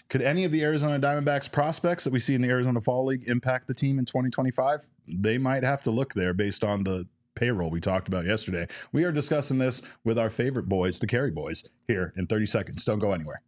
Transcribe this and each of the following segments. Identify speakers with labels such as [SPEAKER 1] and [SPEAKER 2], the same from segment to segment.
[SPEAKER 1] Could any of the Arizona Diamondbacks prospects that we see in the Arizona Fall League impact the team in 2025? They might have to look there based on the payroll we talked about yesterday. We are discussing this with our favorite boys, the Carey Boys, here in 30 seconds. Don't go anywhere.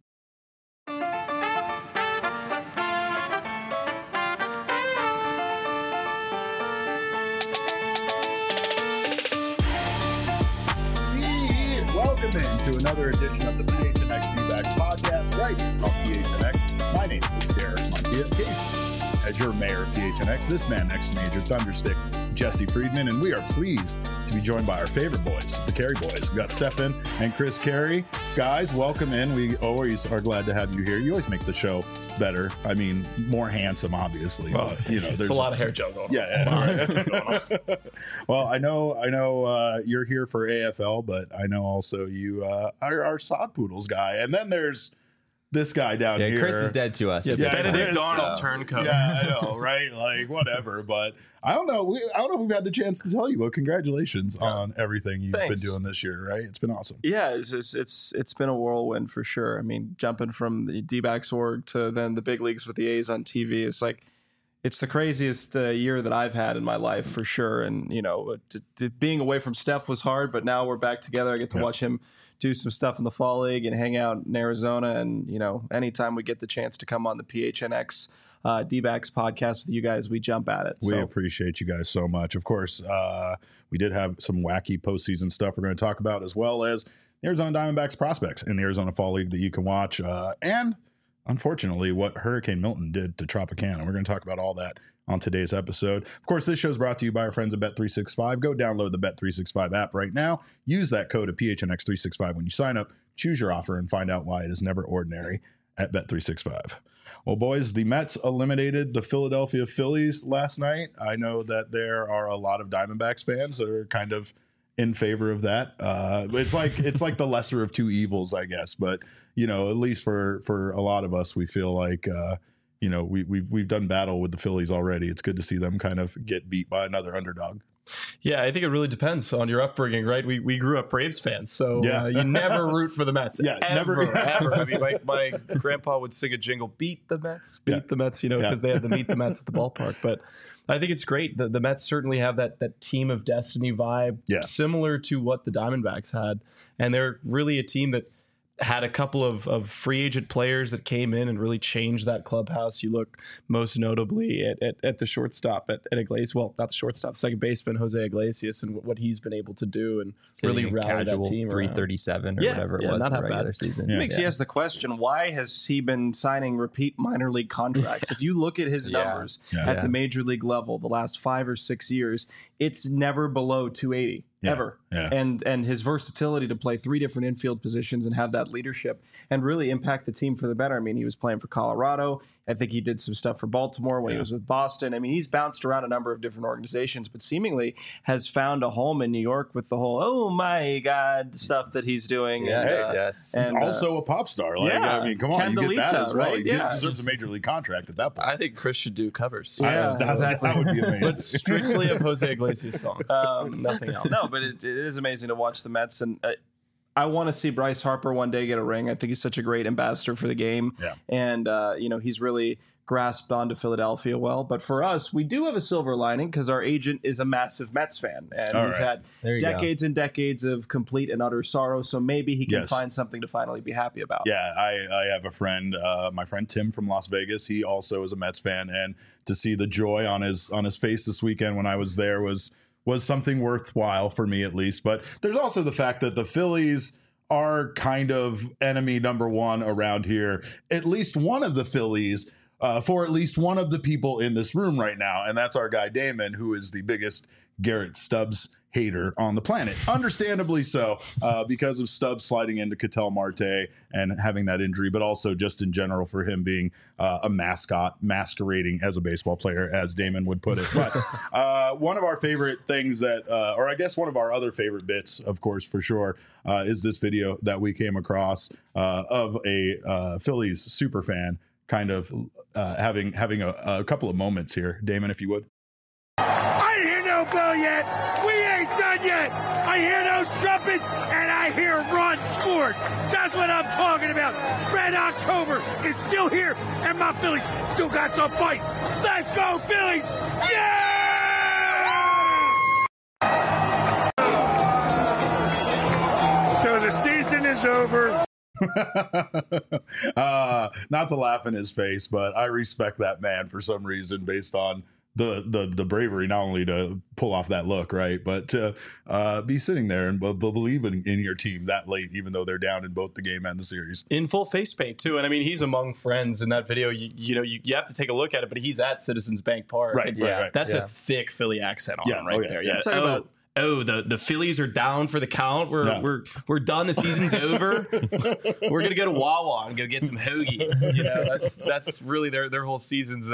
[SPEAKER 1] Welcome into another edition of the PHNX D-Backs podcast right here on PHNX. My name is Derek Montia, as your mayor of PHNX. This man next to me is your Thunderstick, Jesse Friedman, and we are pleased to be joined by our favorite boys, the Carey Boys. We've got Stefan and Chris Carey. Guys, welcome in. We always are glad to have you here. You always make the show better. I mean, more handsome, obviously.
[SPEAKER 2] Well,
[SPEAKER 1] but, you know,
[SPEAKER 2] there's a lot of hair gel going on.
[SPEAKER 1] Yeah. Well, I know you're here for AFL, but I know also you are our Sod Poodles guy. And then there's this guy down here.
[SPEAKER 3] Chris is dead to us.
[SPEAKER 2] Yeah, Benedict
[SPEAKER 1] Chris,
[SPEAKER 2] Donald turncoat.
[SPEAKER 1] Yeah, I know, right? Like, whatever. But I don't know. I don't know if we've had the chance to tell you, but congratulations on everything you've been doing this year, right? It's been awesome.
[SPEAKER 4] Yeah, it's been a whirlwind for sure. I mean, jumping from the D-backs org to then the big leagues with the A's on TV is like, it's the craziest year that I've had in my life for sure. And, you know, being away from Steph was hard, but now we're back together. I get to watch him do some stuff in the Fall League and hang out in Arizona. And, you know, anytime we get the chance to come on the PHNX D-backs podcast with you guys, we jump at it.
[SPEAKER 1] We appreciate you guys so much. Of course, we did have some wacky postseason stuff we're going to talk about, as well as the Arizona Diamondbacks prospects in the Arizona Fall League that you can watch. And unfortunately, what Hurricane Milton did to Tropicana. We're going to talk about all that on today's episode. Of course, this show is brought to you by our friends at Bet365. Go download the Bet365 app right now. Use that code of PHNX365 when you sign up. Choose your offer and find out why it is never ordinary at Bet365. Well, boys, the Mets eliminated the Philadelphia Phillies last night. I know that there are a lot of Diamondbacks fans that are kind of in favor of that. It's like the lesser of two evils, I guess. But you know, at least for a lot of us, we feel like you know, we've done battle with the Phillies already. It's good to see them kind of get beat by another underdog.
[SPEAKER 2] Yeah, I think it really depends on your upbringing, right? We grew up Braves fans, so you never root for the Mets.
[SPEAKER 1] Yeah,
[SPEAKER 2] ever. I mean, my grandpa would sing a jingle, beat the Mets, the Mets, you know, because they have to meet the Mets at the ballpark. But I think it's great. The Mets certainly have that team of destiny vibe, similar to what the Diamondbacks had. And they're really a team that had a couple of free agent players that came in and really changed that clubhouse. You look most notably at the shortstop at Iglesias. Well, not the shortstop, second baseman Jose Iglesias, and what he's been able to do and really rally that team.
[SPEAKER 3] 337 or whatever it was
[SPEAKER 4] not
[SPEAKER 3] in the
[SPEAKER 4] that
[SPEAKER 3] regular
[SPEAKER 4] bad.
[SPEAKER 3] season.
[SPEAKER 4] It makes you ask the question, why has he been signing repeat minor league contracts? If you look at his numbers at the major league level the last 5 or 6 years, it's never below 280. Ever. And his versatility to play 3 different infield positions and have that leadership and really impact the team for the better. I mean, he was playing for Colorado. I think he did some stuff for Baltimore when he was with Boston. I mean, he's bounced around a number of different organizations, but seemingly has found a home in New York with the whole, oh my God, stuff that he's doing.
[SPEAKER 3] Yes.
[SPEAKER 1] He's also a pop star. Like, I mean, come on, you get that as well. He deserves a major league contract at that point.
[SPEAKER 2] I think Chris should do covers.
[SPEAKER 4] Exactly.
[SPEAKER 1] That would be amazing.
[SPEAKER 2] But strictly of Jose Iglesias songs. Nothing else.
[SPEAKER 4] No, but it is amazing to watch the Mets, and I want to see Bryce Harper one day get a ring. I think he's such a great ambassador for the game, and you know, he's really grasped onto Philadelphia well. But for us, we do have a silver lining because our agent is a massive Mets fan, and he's had decades and decades of complete and utter sorrow. So maybe he can find something to finally be happy about.
[SPEAKER 1] Yeah, I have a friend, my friend Tim from Las Vegas. He also is a Mets fan, and to see the joy on his face this weekend when I was there was something worthwhile for me, at least. But there's also the fact that the Phillies are kind of enemy number one around here. At least one of the Phillies, for at least one of the people in this room right now, and that's our guy Damon, who is the biggest Garrett Stubbs hater on the planet. Understandably so, because of Stubbs sliding into Ketel Marte and having that injury, but also just in general for him being a mascot masquerading as a baseball player, as Damon would put it. But one of our favorite things that, or I guess one of our other favorite bits, of course, for sure, is this video that we came across of a Phillies super fan kind of having a couple of moments here. Damon, if you would.
[SPEAKER 5] I ain't hear no bell yet. We ain't done yet. I hear those trumpets, and I hear run, score, forward. That's what I'm talking about. Red October is still here, and my Phillies still got some fight. Let's go, Phillies! Yeah! So the season is over.
[SPEAKER 1] Not to laugh in his face, but I respect that man for some reason based on the bravery, not only to pull off that look, right, but to be sitting there and believe in your team that late, even though they're down in both the game and the series.
[SPEAKER 2] In full face paint, too. And I mean, he's among friends in that video. You have to take a look at it, but he's at Citizens Bank Park.
[SPEAKER 1] Right, right.
[SPEAKER 2] That's a thick Philly accent on him right there. Yeah.
[SPEAKER 4] Talk about
[SPEAKER 2] the Phillies are down for the count. We're done. The season's over. We're gonna go to Wawa and go get some hoagies. That's really their whole season's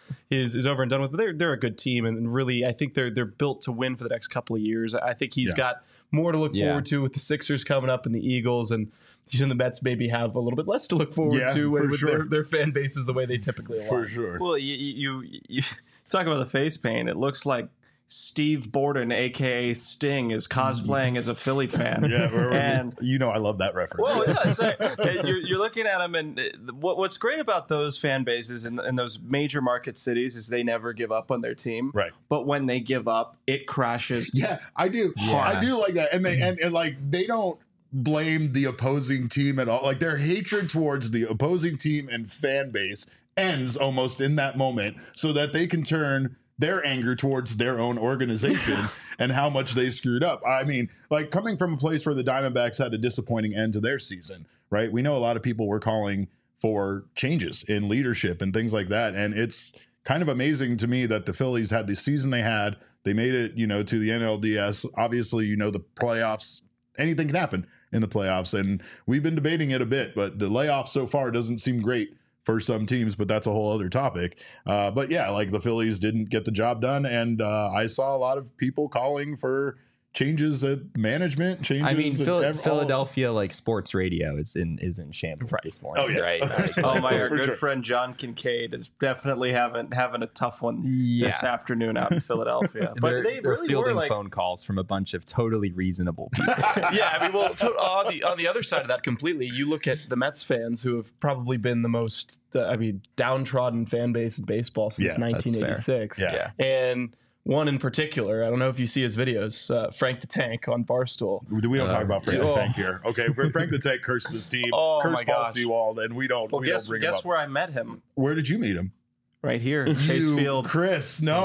[SPEAKER 2] is over and done with. But they're a good team, and really I think they're built to win for the next couple of years. I think he's got more to look forward to with the Sixers coming up and the Eagles, and the Mets maybe have a little bit less to look forward to with their fan bases the way they typically align.
[SPEAKER 1] For sure.
[SPEAKER 4] Well, you talk about the face paint. It looks like Steve Borden, a.k.a. Sting, is cosplaying as a Philly fan.
[SPEAKER 1] Yeah, and I love that reference.
[SPEAKER 4] Well, yeah, you're looking at them, and what's great about those fan bases in those major market cities is they never give up on their team.
[SPEAKER 1] Right.
[SPEAKER 4] But when they give up, it crashes.
[SPEAKER 1] Yeah, I do. Yeah. I do like that, and they don't blame the opposing team at all. Like, their hatred towards the opposing team and fan base ends almost in that moment, so that they can turn their anger towards their own organization and how much they screwed up. I mean, like, coming from a place where the Diamondbacks had a disappointing end to their season, right? We know a lot of people were calling for changes in leadership and things like that. And it's kind of amazing to me that the Phillies had the season they had. They made it, to the NLDS. Obviously, the playoffs, anything can happen in the playoffs. And we've been debating it a bit, but the layoff so far doesn't seem great for some teams, but that's a whole other topic. But yeah, like, the Phillies didn't get the job done, and I saw a lot of people calling for changes at management.
[SPEAKER 3] I mean, Philadelphia sports radio is in shambles this morning.
[SPEAKER 1] Oh yeah,
[SPEAKER 3] right.
[SPEAKER 4] Our good friend John Kincaid is definitely having a tough one this afternoon out in Philadelphia. But
[SPEAKER 3] they're
[SPEAKER 4] really
[SPEAKER 3] fielding phone calls from a bunch of totally reasonable people.
[SPEAKER 2] Yeah, I mean, on the other side of that completely, you look at the Mets fans, who have probably been the most downtrodden fan base in baseball since 1986.
[SPEAKER 1] Yeah.
[SPEAKER 2] And one in particular, I don't know if you see his videos, Frank the Tank on Barstool.
[SPEAKER 1] We don't talk about Frank the Tank here. Okay, Frank the Tank cursed his team, cursed Paul Sewald, and we don't bring him up.
[SPEAKER 4] Guess where I met him?
[SPEAKER 1] Where did you meet him?
[SPEAKER 4] Right here, Chase Field.
[SPEAKER 1] Chris, no.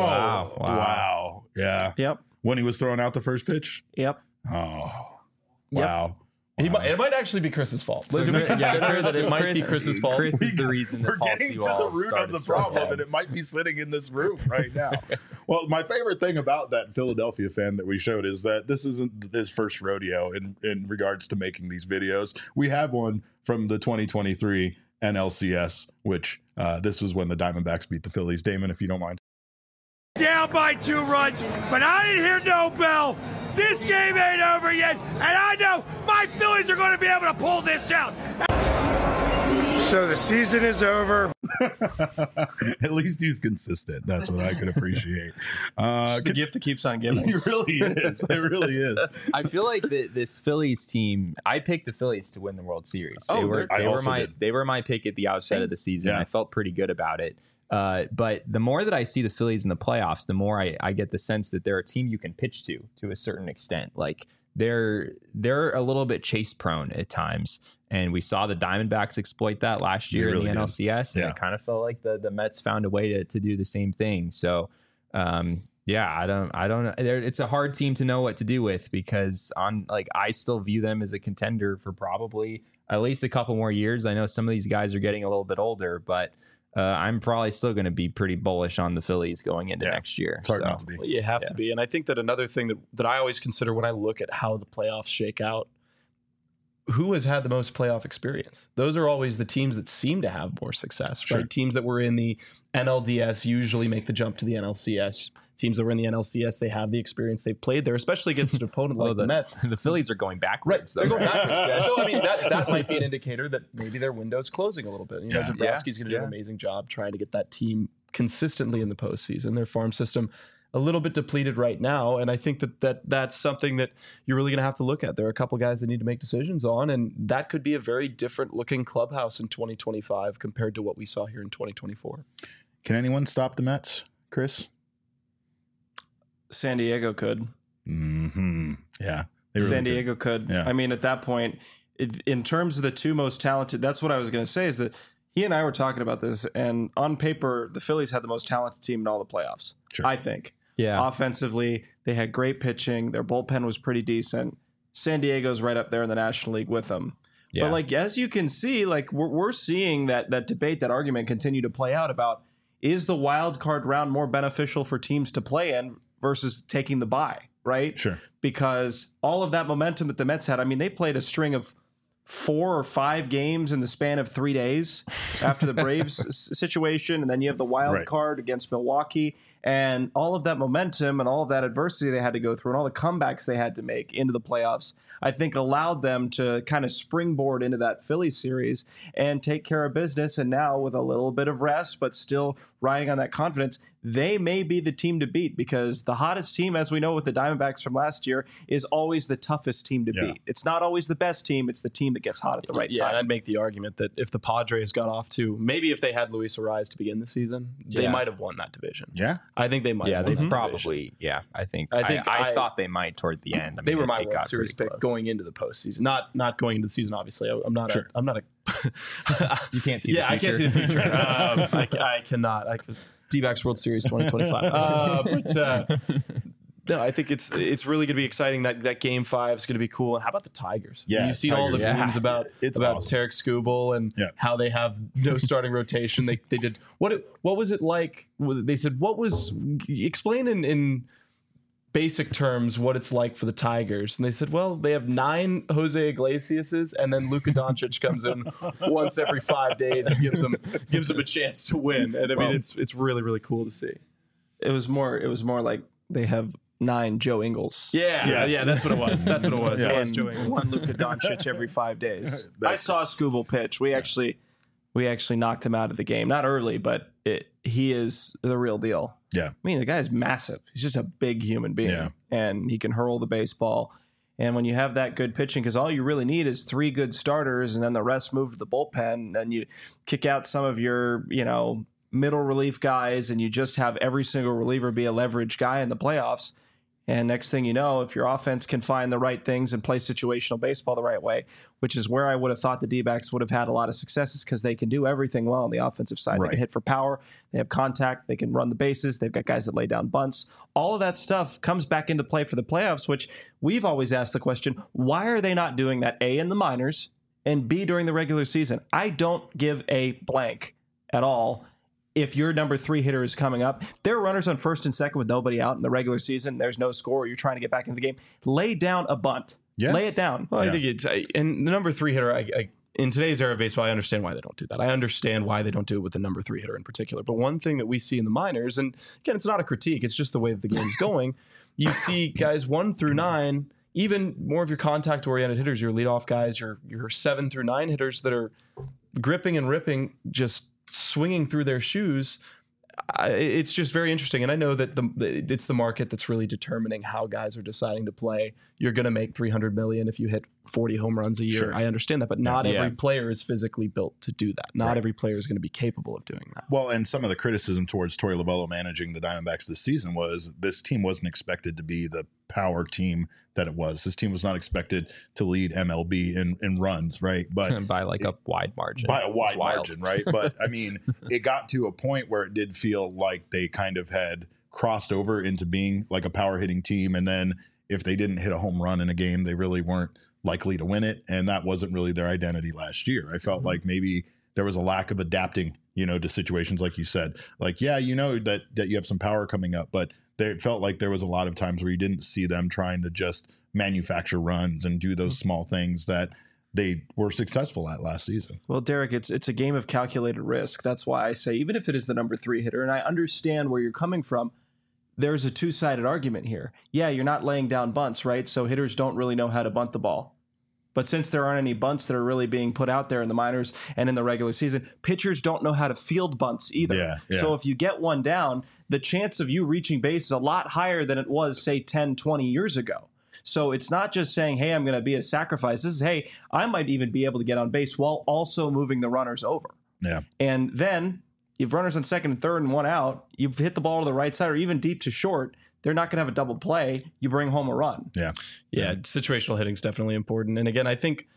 [SPEAKER 1] Wow. Yeah.
[SPEAKER 4] Yep.
[SPEAKER 1] When he was throwing out the first pitch?
[SPEAKER 4] Yep.
[SPEAKER 1] Oh,
[SPEAKER 4] yep.
[SPEAKER 1] Wow.
[SPEAKER 2] It might actually be Chris's fault.
[SPEAKER 3] So
[SPEAKER 2] it might be Chris's fault.
[SPEAKER 3] Chris is the reason that Paul
[SPEAKER 1] We're getting to the root of the problem, and it might be sitting in this room right now. Well, my favorite thing about that Philadelphia fan that we showed is that this isn't his first rodeo in regards to making these videos. We have one from the 2023 NLCS, which this was when the Diamondbacks beat the Phillies. Damon, if you don't mind.
[SPEAKER 5] Down by 2 runs, but I didn't hear no bell. This game ain't over yet, and I know my Phillies are going to be able to pull this out. So the season is over.
[SPEAKER 1] At least he's consistent. That's what I can appreciate.
[SPEAKER 4] It's the gift that keeps on giving.
[SPEAKER 1] It really is. It really is.
[SPEAKER 3] I feel like this Phillies team, I picked the Phillies to win the World Series. They were my pick at the outset of the season. Yeah. I felt pretty good about it. But the more that I see the Phillies in the playoffs, the more I get the sense that they're a team you can pitch to a certain extent. Like, they're a little bit chase prone at times. And we saw the Diamondbacks exploit that last year in the NLCS. And it kind of felt like the Mets found a way to do the same thing. So, I don't know. It's a hard team to know what to do with, because I still view them as a contender for probably at least a couple more years. I know some of these guys are getting a little bit older, but I'm probably still going to be pretty bullish on the Phillies going into next year.
[SPEAKER 1] It's hard not to be.
[SPEAKER 2] Well, you have to be. And I think that another thing that I always consider when I look at how the playoffs shake out, who has had the most playoff experience? Those are always the teams that seem to have more success, right? Sure. Teams that were in the NLDS usually make the jump to the NLCS. Teams that were in the NLCS, they have the experience. They've played there, especially against an opponent like the Mets.
[SPEAKER 3] The Phillies are going backwards.
[SPEAKER 2] Right. They're going backwards. So, I mean, that might be an indicator that maybe their window's closing a little bit. Dombrowski's going to do an amazing job trying to get that team consistently in the postseason. Their farm system a little bit depleted right now. And I think that's something that you're really going to have to look at. There are a couple guys that need to make decisions on, and that could be a very different looking clubhouse in 2025 compared to what we saw here in 2024.
[SPEAKER 1] Can anyone stop the Mets, Chris?
[SPEAKER 4] San Diego could.
[SPEAKER 1] Mm-hmm. Yeah.
[SPEAKER 4] San Diego could. Yeah. I mean, at that point, in terms of the two most talented, that's what I was going to say, is that he and I were talking about this, and on paper, the Phillies had the most talented team in all the playoffs, sure. I think.
[SPEAKER 3] Yeah.
[SPEAKER 4] Offensively, they had great pitching. Their bullpen was pretty decent. San Diego's right up there in the National League with them. Yeah. But like, as you can see, like we're seeing that debate, that argument continue to play out about, is the wild card round more beneficial for teams to play in versus taking the bye, right?
[SPEAKER 1] Sure.
[SPEAKER 4] Because all of that momentum that the Mets had, I mean, they played a string of 4 or 5 games in the span of 3 days after the Braves situation. And then you have the wild card against Milwaukee, and all of that momentum and all of that adversity they had to go through and all the comebacks they had to make into the playoffs, I think allowed them to kind of springboard into that Phillies series and take care of business. And now with a little bit of rest, but still riding on that confidence, they may be the team to beat, because the hottest team, as we know with the Diamondbacks from last year, is always the toughest team to beat. It's not always the best team. It's the team that gets hot at the right time.
[SPEAKER 2] And I'd make the argument that if the Padres got off to, maybe if they had Luis Arraez to begin the season, they might have won that division.
[SPEAKER 1] Yeah.
[SPEAKER 2] I think they might.
[SPEAKER 3] Yeah, they probably. Yeah, I thought they might toward the end. I mean,
[SPEAKER 2] they were my World Series pick going into the postseason, not going into the season. Obviously, I'm not a.
[SPEAKER 3] You can't see.
[SPEAKER 2] Yeah,
[SPEAKER 3] the future.
[SPEAKER 2] I can't see the future. I cannot. D-backs World Series 2025. No, I think it's really going to be exciting. That Game 5 is going to be cool. And how about the Tigers?
[SPEAKER 1] Yeah,
[SPEAKER 2] you've seen all the memes about
[SPEAKER 1] awesome.
[SPEAKER 2] Tarek Skubal and how they have no starting rotation. They did what was it like? They said explain in basic terms what it's like for the Tigers, and they said, well, they have 9 Jose Iglesiases, and then Luka Doncic comes in once every 5 days and gives them a chance to win. And I mean, it's really, really cool to see.
[SPEAKER 4] It was more like they have 9 Joe Ingles.
[SPEAKER 2] Yeah, that's what it was. That's what it was.
[SPEAKER 4] And one Luka Doncic every 5 days. I saw Skubal pitch. We actually knocked him out of the game. Not early, but he is the real deal.
[SPEAKER 1] Yeah.
[SPEAKER 4] I mean, the guy's massive. He's just a big human being, and he can hurl the baseball. And when you have that good pitching, because all you really need is 3 good starters, and then the rest move to the bullpen, and you kick out some of your, middle relief guys, and you just have every single reliever be a leverage guy in the playoffs. And next thing you know, if your offense can find the right things and play situational baseball the right way, which is where I would have thought the D-backs would have had a lot of successes, because they can do everything well on the offensive side. They can hit for power, they have contact, they can run the bases, they've got guys that lay down bunts. All of that stuff comes back into play for the playoffs, which we've always asked the question, why are they not doing that, A, in the minors, and B, during the regular season? I don't give a blank at all. If your number 3 hitter is coming up, there are runners on first and second with nobody out in the regular season, there's no score, you're trying to get back into the game, lay down a bunt. Yeah. Lay it down.
[SPEAKER 2] Well, I think it's, and the number 3 hitter, in today's era of baseball, I understand why they don't do that. I understand why they don't do it with the number 3 hitter in particular. But one thing that we see in the minors, and again, it's not a critique, it's just the way that the game's going. You see guys 1 through 9, even more of your contact-oriented hitters, your leadoff guys, your 7 through 9 hitters that are gripping and ripping, just swinging through their shoes. It's just very interesting. And I know that it's the market that's really determining how guys are deciding to play. You're going to make $300 million if you hit 40 home runs a year. Sure. I understand that, but not every player is physically built to do that. Not every player is going to be capable of doing that.
[SPEAKER 1] Well, and some of the criticism towards Torey Lovullo managing the Diamondbacks this season was this team wasn't expected to be the power team that it was. This team was not expected to lead MLB in runs, right? But
[SPEAKER 3] by like a wide margin.
[SPEAKER 1] By a wide margin, right? But I mean, it got to a point where it did feel like they kind of had crossed over into being like a power hitting team, and then if they didn't hit a home run in a game, they really weren't likely to win it. And that wasn't really their identity last year. I felt like maybe there was a lack of adapting, to situations like you said. Like, that you have some power coming up, but it felt like there was a lot of times where you didn't see them trying to just manufacture runs and do those small things that they were successful at last season.
[SPEAKER 4] Well, Derek, it's a game of calculated risk. That's why I say, even if it is the number 3 hitter, and I understand where you're coming from, there's a two-sided argument here. Yeah, you're not laying down bunts, right? So hitters don't really know how to bunt the ball. But since there aren't any bunts that are really being put out there in the minors and in the regular season, pitchers don't know how to field bunts either. Yeah. So if you get one down, the chance of you reaching base is a lot higher than it was, say, 10, 20 years ago. So it's not just saying, hey, I'm going to be a sacrifice. This is, hey, I might even be able to get on base while also moving the runners over.
[SPEAKER 1] Yeah.
[SPEAKER 4] And then you've runners on second and third and one out. You've hit the ball to the right side or even deep to short. They're not going to have a double play. You bring home a run.
[SPEAKER 2] Yeah. Situational hitting is definitely important. And again, I think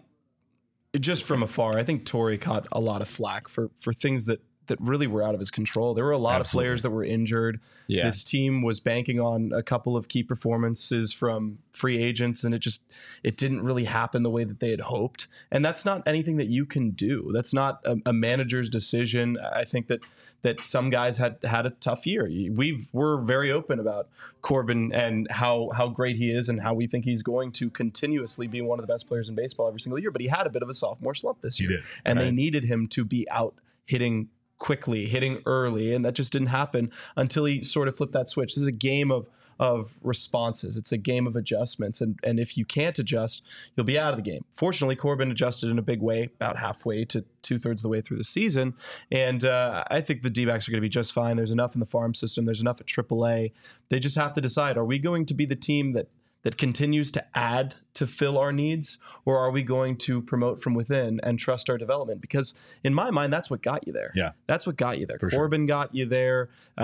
[SPEAKER 2] just from afar, I think Torrey caught a lot of flack for things that really were out of his control. There were a lot of players that were injured. Yeah. This team was banking on a couple of key performances from free agents, and it didn't really happen the way that they had hoped. And that's not anything that you can do. That's not a manager's decision. I think that some guys had a tough year. We're very open about Corbin and how great he is and how we think he's going to continuously be one of the best players in baseball every single year. But he had a bit of a sophomore slump this year. And they needed him to be out hitting quickly, hitting early, and that just didn't happen until he sort of flipped that switch. This is a game of responses. It's a game of adjustments, and if you can't adjust, you'll be out of the game. Fortunately, Corbin adjusted in a big way about halfway to 2/3 of the way through the season, and I think the D-backs are going to be just fine. There's enough in the farm system. There's enough at AAA. They just have to decide, are we going to be the team that continues to add to fill our needs, or are we going to promote from within and trust our development? Because in my mind, that's what got you there.
[SPEAKER 1] Yeah.
[SPEAKER 2] That's what got you there.
[SPEAKER 1] For
[SPEAKER 2] Corbin got you there.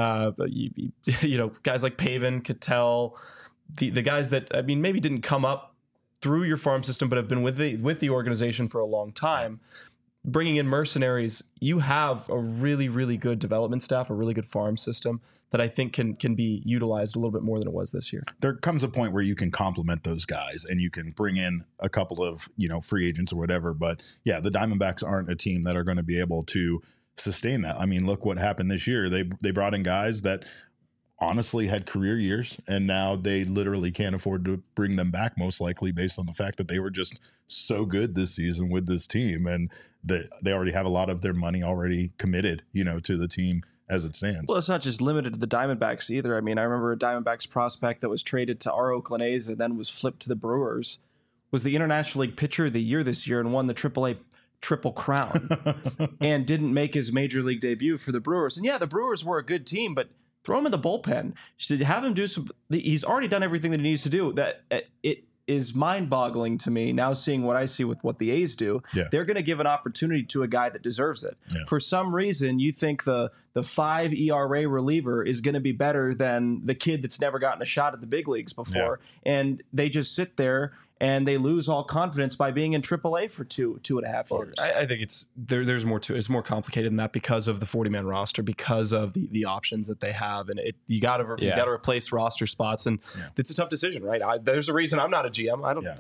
[SPEAKER 2] You know, guys like Pavin, Cattell, the guys that, I mean, maybe didn't come up through your farm system, but have been with the organization for a long time. Bringing in mercenaries, you have a really, really good development staff, a really good farm system that I think can be utilized a little bit more than it was this year.
[SPEAKER 1] There comes a point where you can complement those guys and you can bring in a couple of, free agents or whatever. But yeah, the Diamondbacks aren't a team that are going to be able to sustain that. I mean, look what happened this year. They brought in guys that honestly had career years, and now they literally can't afford to bring them back, most likely based on the fact that they were just so good this season with this team, and they already have a lot of their money already committed, to the team as it stands.
[SPEAKER 4] Well, it's not just limited to the Diamondbacks either. I mean, I remember a Diamondbacks prospect that was traded to our Oakland A's and then was flipped to the Brewers, was the International League Pitcher of the Year this year and won the AAA Triple Crown and didn't make his Major League debut for the Brewers. And yeah, the Brewers were a good team, but throw him in the bullpen. Have him do some. He's already done everything that he needs to do. That it is mind-boggling to me now seeing what I see with what the A's do. Yeah. They're going to give an opportunity to a guy that deserves it. Yeah. For some reason, you think the 5 ERA reliever is going to be better than the kid that's never gotten a shot at the big leagues before, and they just sit there and they lose all confidence by being in AAA for 2.5 years.
[SPEAKER 2] I think there's more to it. It's more complicated than that because of the 40-man roster, because of the options that they have, and you got to replace roster spots, and it's a tough decision, right? There's a reason I'm not a GM.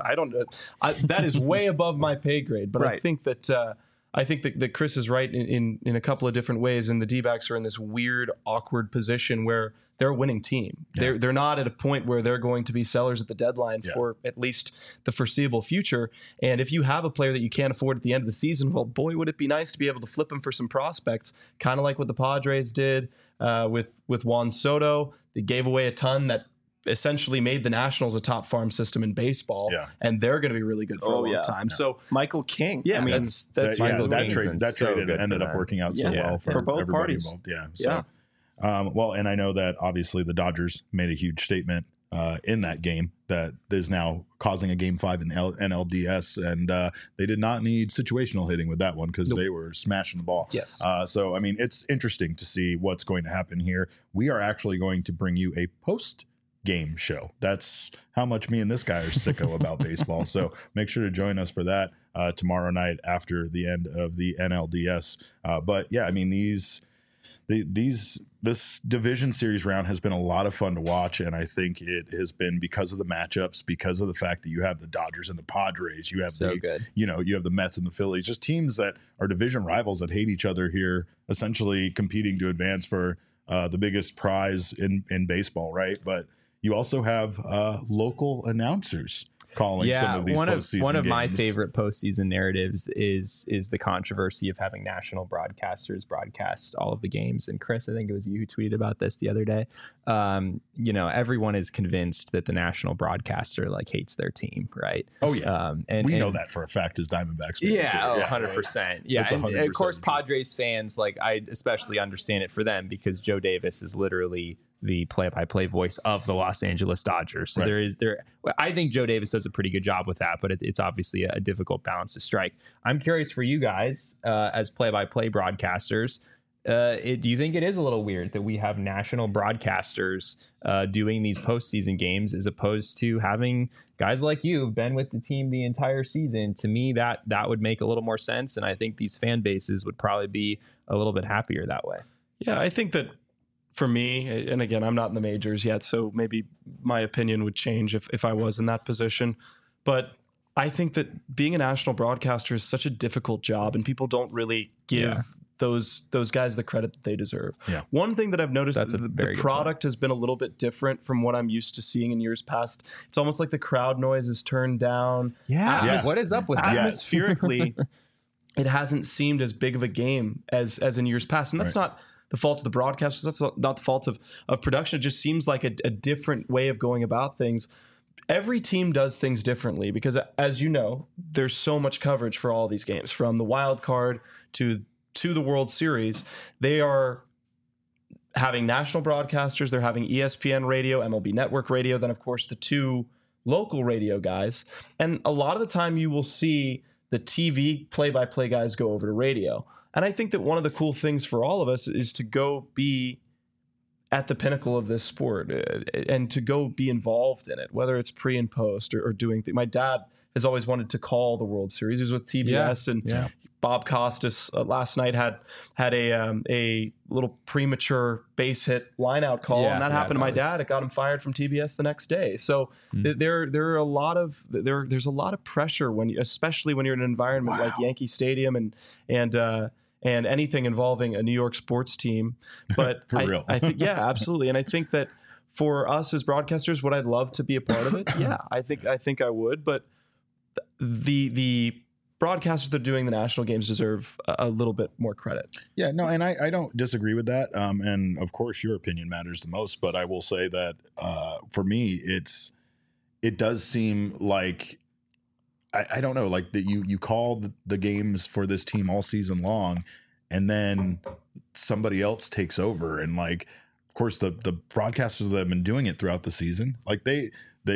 [SPEAKER 2] That is way above my pay grade, but right. I think that Chris is right in a couple of different ways, and the D-backs are in this weird, awkward position where they're a winning team. Yeah. They're not at a point where they're going to be sellers at the deadline for at least the foreseeable future. And if you have a player that you can't afford at the end of the season, well, boy, would it be nice to be able to flip him for some prospects, kind of like what the Padres did with Juan Soto. They gave away a ton that essentially made the Nationals a top farm system in baseball, and they're going to be really good for a long time. Yeah. So
[SPEAKER 4] Michael King,
[SPEAKER 2] I mean, that's Michael
[SPEAKER 1] King. That trade ended up working out so well for both parties involved. Yeah. So, well, and I know that obviously the Dodgers made a huge statement in that game that is now causing a Game 5 in NLDS, and they did not need situational hitting with that one because they were smashing the ball.
[SPEAKER 2] Yes.
[SPEAKER 1] So, I mean, it's interesting to see what's going to happen here. We are actually going to bring you a post-game show. That's how much me and this guy are sicko about baseball. So make sure to join us for that tomorrow night after the end of the NLDS. But yeah, I mean, this division series round has been a lot of fun to watch, and I think it has been because of the matchups, because of the fact that you have the Dodgers and the Padres, you have you have the Mets and the Phillies, just teams that are division rivals that hate each other here, essentially competing to advance for the biggest prize in baseball, right? But you also have local announcers calling some of these postseason games.
[SPEAKER 3] One of my favorite postseason narratives is the controversy of having national broadcasters broadcast all of the games. And Chris, I think it was you who tweeted about this the other day. Everyone is convinced that the national broadcaster hates their team, right?
[SPEAKER 1] Oh yeah, and we know that for a fact as Diamondbacks fans.
[SPEAKER 3] Yeah, 100%. Yeah, and of course Padres fans, I especially understand it for them because Joe Davis is literally the play-by-play voice of the Los Angeles Dodgers. So I think Joe Davis does a pretty good job with that, but it's obviously a difficult balance to strike. I'm curious for you guys as play-by-play broadcasters. Do you think it is a little weird that we have national broadcasters doing these postseason games as opposed to having guys like you who've been with the team the entire season? To me, that would make a little more sense, and I think these fan bases would probably be a little bit happier that way.
[SPEAKER 4] Yeah, I think that for me, and again, I'm not in the majors yet, so maybe my opinion would change if I was in that position. But I think that being a national broadcaster is such a difficult job, and people don't really give those guys the credit that they deserve. Yeah. One thing that I've noticed, the product has been a little bit different from what I'm used to seeing in years past. It's almost like the crowd noise is turned down.
[SPEAKER 3] Yeah. What is up with that?
[SPEAKER 4] Atmospherically, it hasn't seemed as big of a game as in years past. And that's not the fault of the broadcasters. That's not the fault of production. It just seems like a different way of going about things. Every team does things differently because, as you know, there's so much coverage for all these games, from the wild card to the World Series. They are having national broadcasters. They're having ESPN radio, MLB Network radio, then, of course, the two local radio guys. And a lot of the time you will see the TV play-by-play guys go over to radio. And I think that one of the cool things for all of us is to go be at the pinnacle of this sport and to go be involved in it, whether it's pre and post or doing things. My dad has always wanted to call the World Series. He was with TBS, and Bob Costas last night had a little premature base hit line-out call, and that happened to my dad. It got him fired from TBS the next day. So there's a lot of pressure especially when you're in an environment like Yankee Stadium and anything involving a New York sports team. But
[SPEAKER 1] For real.
[SPEAKER 4] I think absolutely, and I think that for us as broadcasters, would I love to be a part of it? Yeah, I think I would, but the broadcasters that are doing the national games deserve a little bit more credit.
[SPEAKER 1] Yeah, no, and I don't disagree with that. And of course, your opinion matters the most. But I will say that for me, it does seem like I don't know, like that you call the games for this team all season long, and then somebody else takes over, and of course the broadcasters that have been doing it throughout the season, they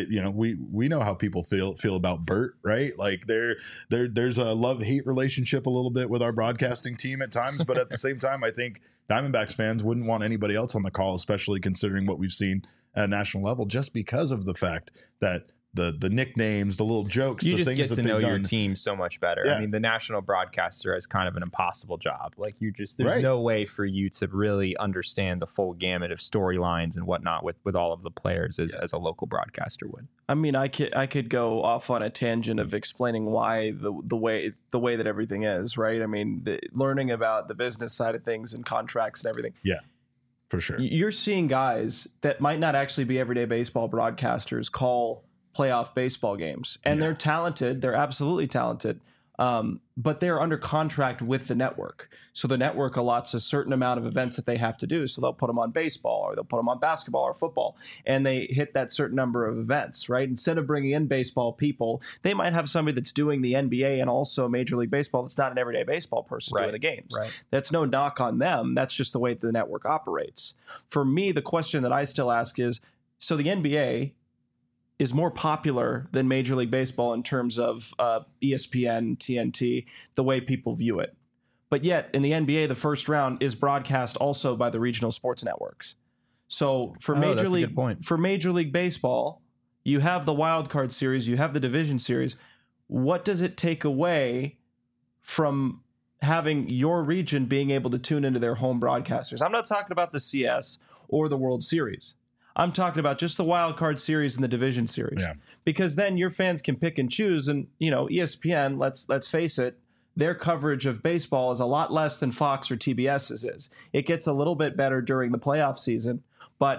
[SPEAKER 1] we know how people feel about Bert, right? There's a love-hate relationship a little bit with our broadcasting team at times, but at the same time, I think Diamondbacks fans wouldn't want anybody else on the call, especially considering what we've seen at a national level, just because of the fact that the nicknames, the little jokes,
[SPEAKER 3] you
[SPEAKER 1] the
[SPEAKER 3] just
[SPEAKER 1] things
[SPEAKER 3] get to know your team so much better. I mean, the national broadcaster is kind of an impossible job. There's no way for you to really understand the full gamut of storylines and whatnot with all of the players as a local broadcaster would.
[SPEAKER 4] I mean, I could go off on a tangent of explaining why the way that everything is, right? I mean, learning about the business side of things and contracts and everything.
[SPEAKER 1] Yeah, for sure.
[SPEAKER 4] You're seeing guys that might not actually be everyday baseball broadcasters call playoff baseball games, and they're talented. They're absolutely talented. But they're under contract with the network. So the network allots a certain amount of events that they have to do. So they'll put them on baseball, or they'll put them on basketball or football, and they hit that certain number of events, right? Instead of bringing in baseball people, they might have somebody that's doing the NBA and also Major League Baseball that's not an everyday baseball person doing the games. Right. That's no knock on them. That's just the way the network operates. For me, the question that I still ask is, so the NBA is more popular than Major League Baseball in terms of ESPN, TNT, the way people view it. But yet, in the NBA, the first round is broadcast also by the regional sports networks. So for Major League Baseball, you have the wild card series, you have the division series. What does it take away from having your region being able to tune into their home broadcasters? I'm not talking about the CS or the World Series. I'm talking about just the wild card series and the division series, because then your fans can pick and choose. And ESPN, let's face it, their coverage of baseball is a lot less than Fox or TBS's is. It gets a little bit better during the playoff season, but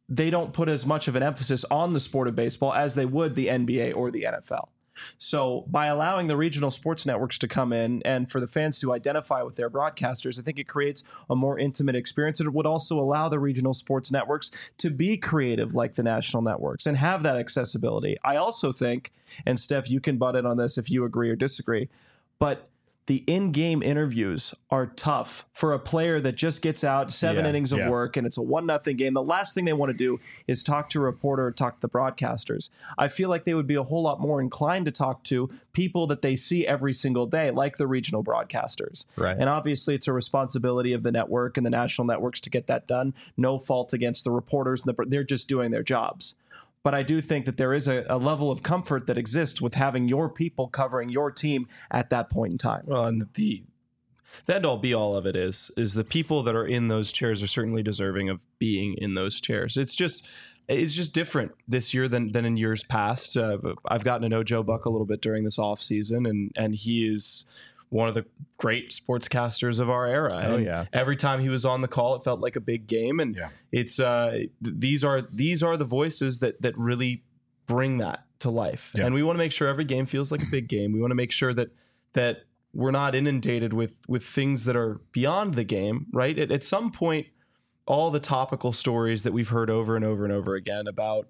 [SPEAKER 4] they don't put as much of an emphasis on the sport of baseball as they would the NBA or the NFL. So by allowing the regional sports networks to come in and for the fans to identify with their broadcasters, I think it creates a more intimate experience. It would also allow the regional sports networks to be creative like the national networks and have that accessibility. I also think, and Steph, you can butt in on this if you agree or disagree, but the in-game interviews are tough for a player that just gets out 7 innings of work and it's a 1-0 game. The last thing they want to do is talk to a reporter or talk to the broadcasters. I feel like they would be a whole lot more inclined to talk to people that they see every single day, like the regional broadcasters.
[SPEAKER 3] Right.
[SPEAKER 4] And obviously it's a responsibility of the network and the national networks to get that done. No fault against the reporters. They're just doing their jobs. But I do think that there is a level of comfort that exists with having your people covering your team at that point in time.
[SPEAKER 2] Well, and the end all be all of it is the people that are in those chairs are certainly deserving of being in those chairs. It's just different this year than in years past. I've gotten to know Joe Buck a little bit during this off season, and he is one of the great sportscasters of our era.
[SPEAKER 3] Oh,
[SPEAKER 2] and every time he was on the call, it felt like a big game. And it's these are the voices that really bring that to life. And we want to make sure every game feels like a big game. We want to make sure that we're not inundated with things that are beyond the game, right? At some point, all the topical stories that we've heard over and over and over again about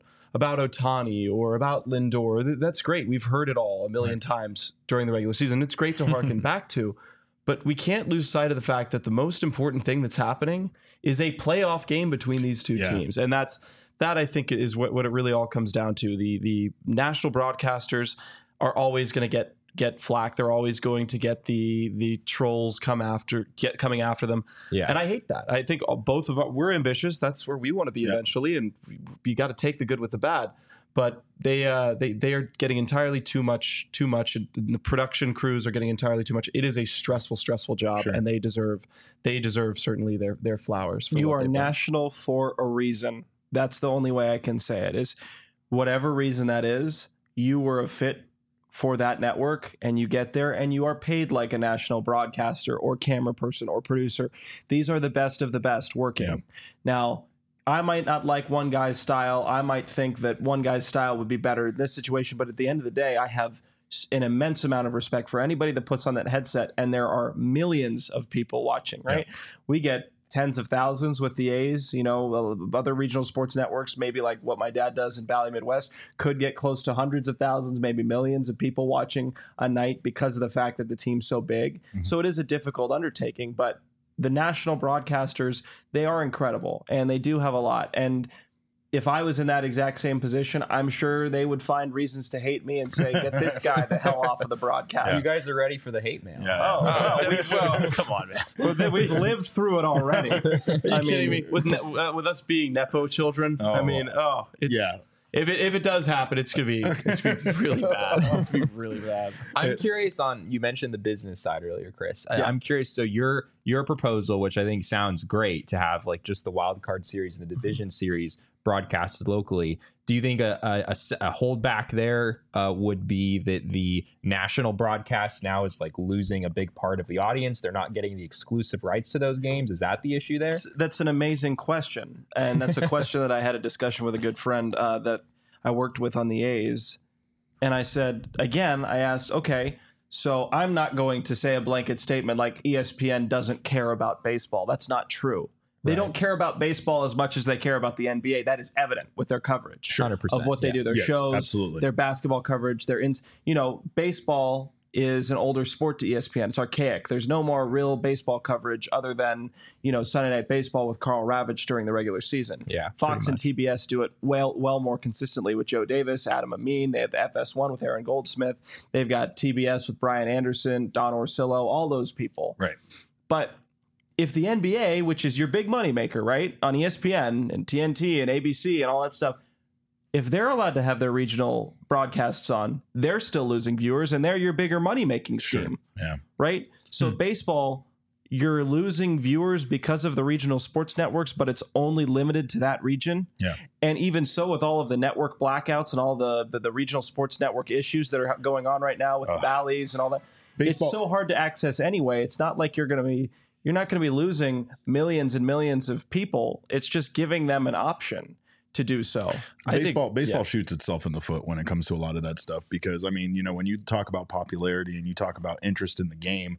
[SPEAKER 2] Ohtani or about Lindor, that's great. We've heard it all a million times during the regular season. It's great to harken back to, but we can't lose sight of the fact that the most important thing that's happening is a playoff game between these two teams. And that I think is what it really all comes down to. The national broadcasters are always going to get flack. They're always going to get the trolls coming after them. And I hate that. I think both of us, we're ambitious. That's where we want to be eventually. And you got to take the good with the bad. But they are getting entirely too much. And the production crews are getting entirely too much. It is a stressful job, and they deserve certainly their flowers.
[SPEAKER 4] You are national for a reason. That's the only way I can say it. Is whatever reason that is, you were a fit for that network, and you get there and you are paid like a national broadcaster or camera person or producer. These are the best of the best working. Now, I might not like one guy's style. I might think that one guy's style would be better in this situation, but at the end of the day, I have an immense amount of respect for anybody that puts on that headset, and there are millions of people watching, right? We get tens of thousands with the A's, other regional sports networks, maybe like what my dad does in Bally Midwest, could get close to hundreds of thousands, maybe millions of people watching a night because of the fact that the team's so big. So it is a difficult undertaking, but the national broadcasters, they are incredible and they do have a lot. And if I was in that exact same position, I'm sure they would find reasons to hate me and say, get this guy the hell off of the broadcast.
[SPEAKER 3] You guys are ready for the hate mail.
[SPEAKER 2] Come on, man. We've lived through it already. Are you kidding me? With us being Nepo children, If it does happen, it's gonna be really bad. It's gonna be really bad.
[SPEAKER 3] I'm curious you mentioned the business side earlier, Chris. I'm curious. So your proposal, which I think sounds great, to have like just the wild card series and the division series broadcasted locally. Do you think a holdback there would be that the national broadcast now is like losing a big part of the audience? They're not getting the exclusive rights to those games. Is that the issue there?
[SPEAKER 4] That's an amazing question. And that's a question that I had a discussion with a good friend that I worked with on the A's. And I said, again, I asked, okay, so I'm not going to say a blanket statement like ESPN doesn't care about baseball. That's not true. They don't care about baseball as much as they care about the NBA. That is evident with their coverage
[SPEAKER 3] 100%,
[SPEAKER 4] of what they do. Their shows, their basketball coverage, baseball is an older sport to ESPN. It's archaic. There's no more real baseball coverage other than, Sunday Night Baseball with Carl Ravitch during the regular season.
[SPEAKER 3] Yeah,
[SPEAKER 4] Fox and TBS do it well more consistently with Joe Davis, Adam Amin. They have the FS1 with Aaron Goldsmith. They've got TBS with Brian Anderson, Don Orsillo, all those people.
[SPEAKER 1] Right.
[SPEAKER 4] But if the NBA, which is your big money maker, right, on ESPN and TNT and ABC and all that stuff, if they're allowed to have their regional broadcasts on, they're still losing viewers, and they're your bigger money-making scheme, right? So baseball, you're losing viewers because of the regional sports networks, but it's only limited to that region.
[SPEAKER 1] Yeah.
[SPEAKER 4] And even so, with all of the network blackouts and all the regional sports network issues that are going on right now with the Bally's and all that, it's so hard to access anyway. It's not like you're not going to be losing millions and millions of people. It's just giving them an option to do so.
[SPEAKER 1] Baseball shoots itself in the foot when it comes to a lot of that stuff, because I mean, when you talk about popularity and you talk about interest in the game,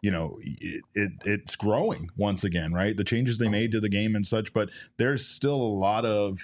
[SPEAKER 1] it's growing once again, right? The changes they made to the game and such, but there's still a lot of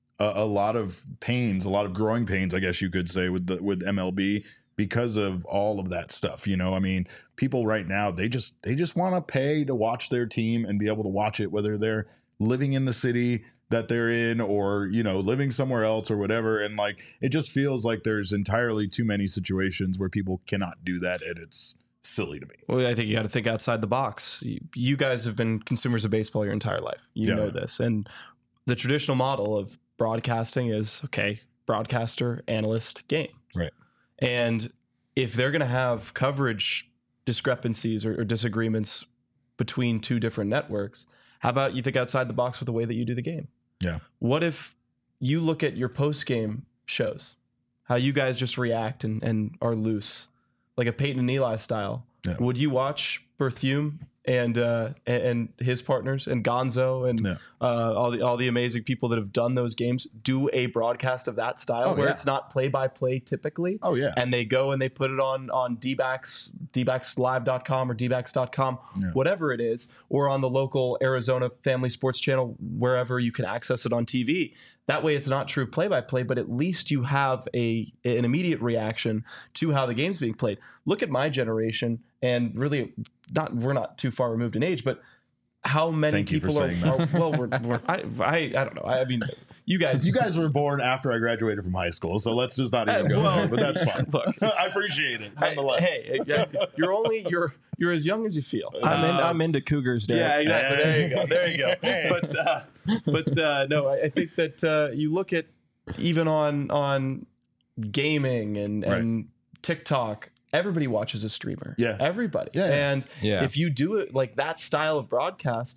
[SPEAKER 1] pains, a lot of growing pains, I guess you could say, with MLB because of all of that stuff. I mean, people right now, they just want to pay to watch their team and be able to watch it, whether they're living in the city that they're in or, living somewhere else or whatever. And like, it just feels like there's entirely too many situations where people cannot do that. And it's silly to me.
[SPEAKER 2] Well, I think you got to think outside the box. You guys have been consumers of baseball your entire life. You know this. And the traditional model of broadcasting is, okay, broadcaster, analyst, game.
[SPEAKER 1] Right.
[SPEAKER 2] And if they're going to have coverage discrepancies or disagreements between two different networks, how about you think outside the box with the way that you do the game?
[SPEAKER 1] Yeah.
[SPEAKER 2] What if you look at your post-game shows, how you guys just react and are loose, like a Peyton and Eli style? Yeah. Would you watch Berthume and his partners and Gonzo and all the amazing people that have done those games do a broadcast of that style where it's not play-by-play typically?
[SPEAKER 1] Oh, yeah.
[SPEAKER 2] And they go and they put it on dbackslive.com or dbacks.com, whatever it is, or on the local Arizona Family Sports Channel, wherever you can access it on TV. That way it's not true play-by-play, but at least you have an immediate reaction to how the game's being played. Look at my generation, and really we're not too far removed in age, but how many people are well, I don't know. I mean, you guys
[SPEAKER 1] were born after I graduated from high school, so let's just not even go there, but that's fine. Look, I appreciate it nonetheless.
[SPEAKER 2] Hey, you're as young as you feel.
[SPEAKER 4] I'm into Cougars, Dad.
[SPEAKER 2] Yeah, exactly. There you go. But no, I think that you look at even on gaming and TikTok, everybody watches a streamer.
[SPEAKER 1] Yeah.
[SPEAKER 2] Everybody.
[SPEAKER 1] Yeah.
[SPEAKER 2] And if you do it like that style of broadcast,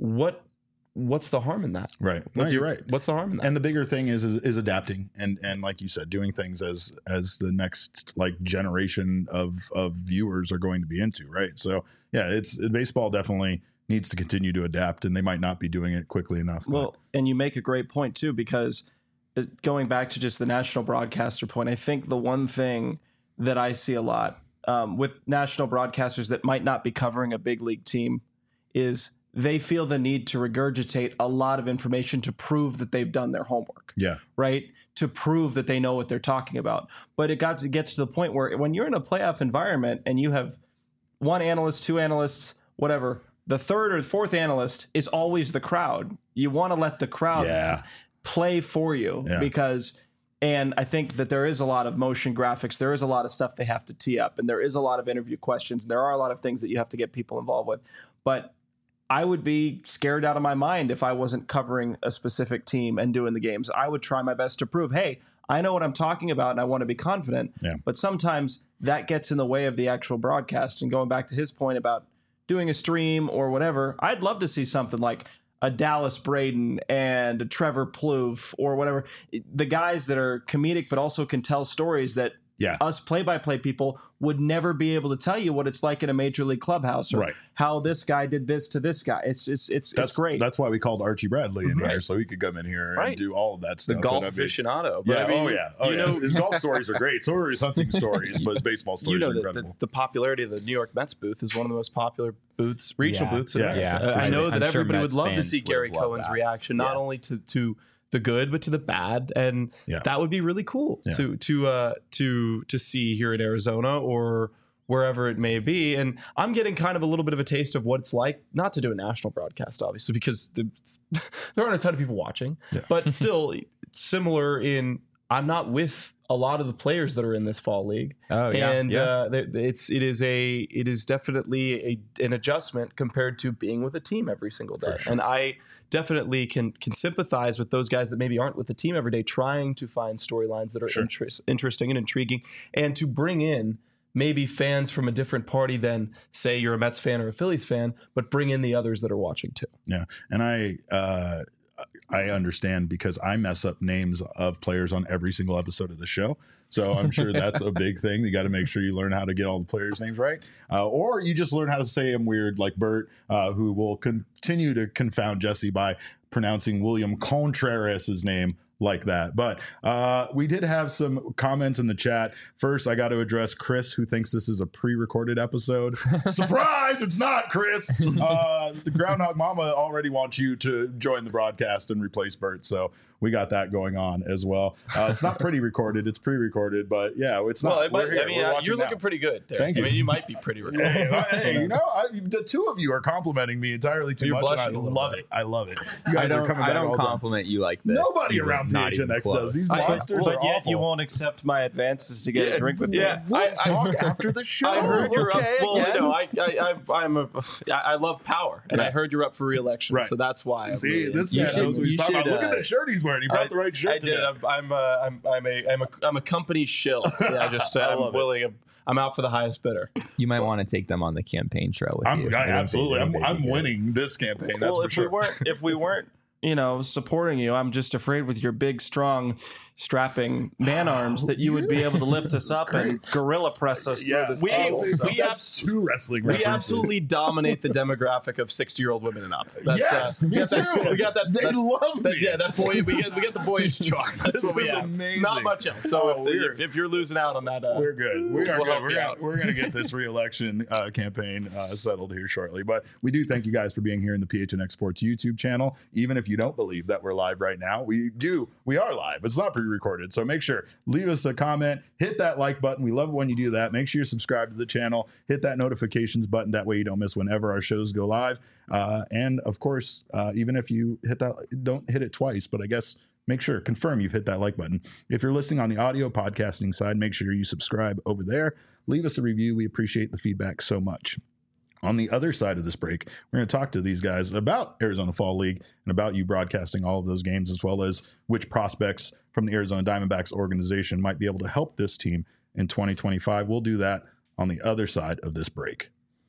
[SPEAKER 2] what's the harm in that?
[SPEAKER 1] Right. No, you're right.
[SPEAKER 2] What's the harm in that?
[SPEAKER 1] And the bigger thing is adapting and like you said, doing things as the next like generation of viewers are going to be into, right? So yeah, baseball definitely needs to continue to adapt, and they might not be doing it quickly enough.
[SPEAKER 4] Well, and you make a great point too, because going back to just the national broadcaster point, I think the one thing that I see a lot with national broadcasters that might not be covering a big league team is they feel the need to regurgitate a lot of information to prove that they've done their homework.
[SPEAKER 1] Yeah.
[SPEAKER 4] Right? To prove that they know what they're talking about. But it gets to the point where when you're in a playoff environment and you have one analyst, two analysts, whatever, the third or fourth analyst is always the crowd. You want to let the crowd play for you because... And I think that there is a lot of motion graphics. There is a lot of stuff they have to tee up. And there is a lot of interview questions. There are a lot of things that you have to get people involved with. But I would be scared out of my mind if I wasn't covering a specific team and doing the games. I would try my best to prove, hey, I know what I'm talking about and I want to be confident.
[SPEAKER 1] Yeah.
[SPEAKER 4] But sometimes that gets in the way of the actual broadcast. And going back to his point about doing a stream or whatever, I'd love to see something like a Dallas Braden and a Trevor Plouffe or whatever, the guys that are comedic but also can tell stories that us play-by-play people would never be able to tell you what it's like in a major league clubhouse or how this guy did this to this guy. It's great.
[SPEAKER 1] That's why we called Archie Bradley in here, so he could come in here and do all of that stuff.
[SPEAKER 2] The golf aficionado.
[SPEAKER 1] But his golf stories are great. So are his hunting stories, but his baseball stories are incredible.
[SPEAKER 2] The popularity of the New York Mets booth is one of the most popular regional booths in America.
[SPEAKER 3] Yeah,
[SPEAKER 2] I know that everybody would love to see Gary Cohen's reaction, not only to the good but to the bad, and that would be really cool to see here in Arizona or wherever it may be. And I'm getting kind of a little bit of a taste of what it's like not to do a national broadcast, obviously, because there aren't a ton of people watching, but still similar in I'm not with a lot of the players that are in this fall league. It is definitely an adjustment compared to being with a team every single day. Sure. And I definitely can sympathize with those guys that maybe aren't with the team every day, trying to find storylines that are interesting and intriguing, and to bring in maybe fans from a different party than, say, you're a Mets fan or a Phillies fan, but bring in the others that are watching too.
[SPEAKER 1] Yeah, and I understand because I mess up names of players on every single episode of the show. So I'm sure that's a big thing. You got to make sure you learn how to get all the players' names right. Or you just learn how to say them weird like Bert, who will continue to confound Jesse by pronouncing William Contreras' name like that. But we did have some comments in the chat. First, I got to address Chris, who thinks this is a pre-recorded episode. Surprise! It's not, Chris. The Groundhog Mama already wants you to join the broadcast and replace Bert, so we got that going on as well. It's not pretty recorded; it's pre-recorded. But yeah, it's not.
[SPEAKER 2] Well, you're looking pretty good there.
[SPEAKER 1] Thank you.
[SPEAKER 2] I mean, you might be pretty recorded.
[SPEAKER 1] Hey, the two of you are complimenting me entirely too much, and I love it. I love it. You guys are coming back.
[SPEAKER 3] I don't compliment you like this.
[SPEAKER 1] Nobody around PHNX does. These monsters
[SPEAKER 4] but
[SPEAKER 1] are
[SPEAKER 4] yet
[SPEAKER 1] awful.
[SPEAKER 4] you won't accept my advances to get a drink with me.
[SPEAKER 1] We'll talk after the show.
[SPEAKER 2] I heard you're up. Well, I love power, and I heard you're up for re-election, so that's why.
[SPEAKER 1] See, this man knows what he's talking about. Look at the shirt he's wearing. He brought the right shirt.
[SPEAKER 2] I did. I'm a company shill. I'm willing. I'm out for the highest bidder.
[SPEAKER 3] You might want to take them on the campaign trail with you.
[SPEAKER 1] Absolutely. I'm winning this campaign. That's for sure.
[SPEAKER 4] If we weren't, supporting you, I'm just afraid with your big, strong, strapping man arms that you would be able to lift us up and gorilla press us through this table.
[SPEAKER 1] That's two wrestling references.
[SPEAKER 2] We absolutely dominate the demographic of 60-year-old women and up.
[SPEAKER 1] Yes, me too.
[SPEAKER 2] We got that.
[SPEAKER 1] They love me.
[SPEAKER 2] Yeah, that boy. We get the boyish charm. That's what we have.
[SPEAKER 1] Amazing.
[SPEAKER 2] Not much else. So if you're losing out on that,
[SPEAKER 1] we're good. We're
[SPEAKER 2] good.
[SPEAKER 1] We're gonna get this re-election campaign settled here shortly. But we do thank you guys for being here in the PHNX Sports YouTube channel. Even if you don't believe that we're live right now, we are live. It's not pre-recorded, so make sure leave us a comment, hit that like button. We love it when you do that. Make sure you're subscribed to the channel, hit that notifications button, that way you don't miss whenever our shows go live. And of course, even if you hit that, don't hit it twice, but I guess make sure, confirm you've hit that like button. If you're listening on the audio podcasting side, make sure you subscribe over there. Leave us a review. We appreciate the feedback so much. On the other side of this break, we're going to talk to these guys about Arizona Fall League and about you broadcasting all of those games, as well as which prospects from the Arizona Diamondbacks organization might be able to help this team in 2025. We'll do that on the other side of this break.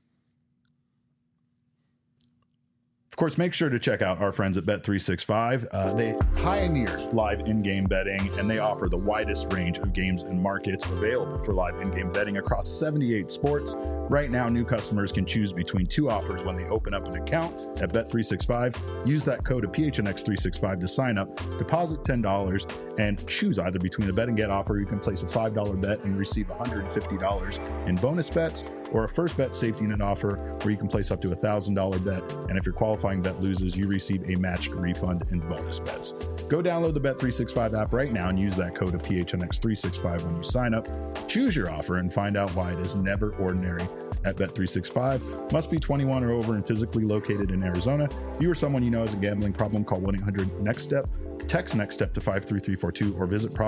[SPEAKER 1] Of course, make sure to check out our friends at Bet365. They pioneer live in-game betting, and they offer the widest range of games and markets available for live in-game betting across 78 sports. Right now, new customers can choose between two offers when they open up an account at Bet365. Use that code of PHNX365 to sign up, deposit $10, and choose either between a bet and get offer. You can place a $5 bet and receive $150 in bonus bets, or a first bet safety net offer where you can place up to a $1,000 bet. And if your qualifying bet loses, you receive a matched refund in bonus bets. Go download the Bet365 app right now and use that code of PHNX365 when you sign up. Choose your offer and find out why it is never ordinary at Bet365. Must be 21 or over and physically located in Arizona. If you or someone you know has a gambling problem, call 1-800-NEXT-STEP. Text NEXT STEP to 53342 or visit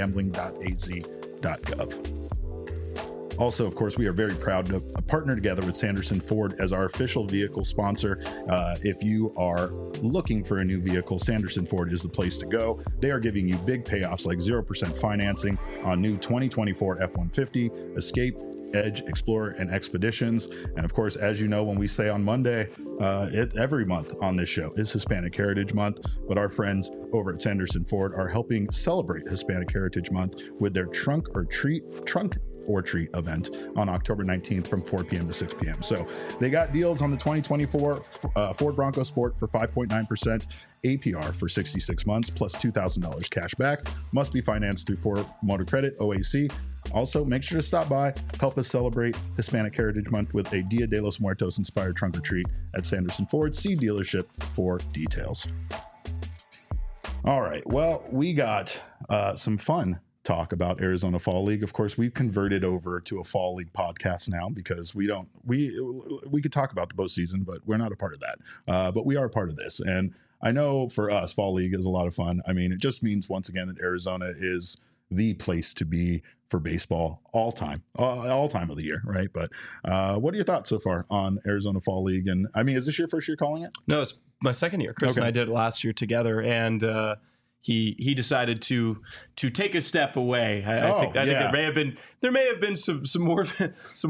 [SPEAKER 1] problemgambling.az.gov. Also, of course, we are very proud to partner together with Sanderson Ford as our official vehicle sponsor. If you are looking for a new vehicle, Sanderson Ford is the place to go. They are giving you big payoffs like 0% financing on new 2024 F-150, Escape, Edge, Explorer, and Expeditions. And of course, as you know, when we say on Monday, every month on this show is Hispanic Heritage Month, but our friends over at Sanderson Ford are helping celebrate Hispanic Heritage Month with their Trunk or Treat event on October 19th from 4 p.m. to 6 p.m. So they got deals on the 2024 Ford Bronco Sport for 5.9% APR for 66 months plus $2,000 cash back. Must be financed through Ford Motor Credit, OAC. Also, make sure to stop by, help us celebrate Hispanic Heritage Month with a Dia de los Muertos inspired trunk or treat at Sanderson Ford. See dealership for details. All right. Well, we got some fun talk about Arizona Fall League. Of course, we've converted over to a Fall League podcast now because we could talk about the postseason, but we're not a part of that. But we are a part of this. And I know for us, Fall League is a lot of fun. I mean, it just means once again that Arizona is the place to be for baseball all time of the year, right? But what are your thoughts so far on Arizona Fall League? And I mean, is this your first year calling it?
[SPEAKER 2] No, it's my second year. Chris and I did it last year together, and he decided to take a step away. I think there may have been some more. And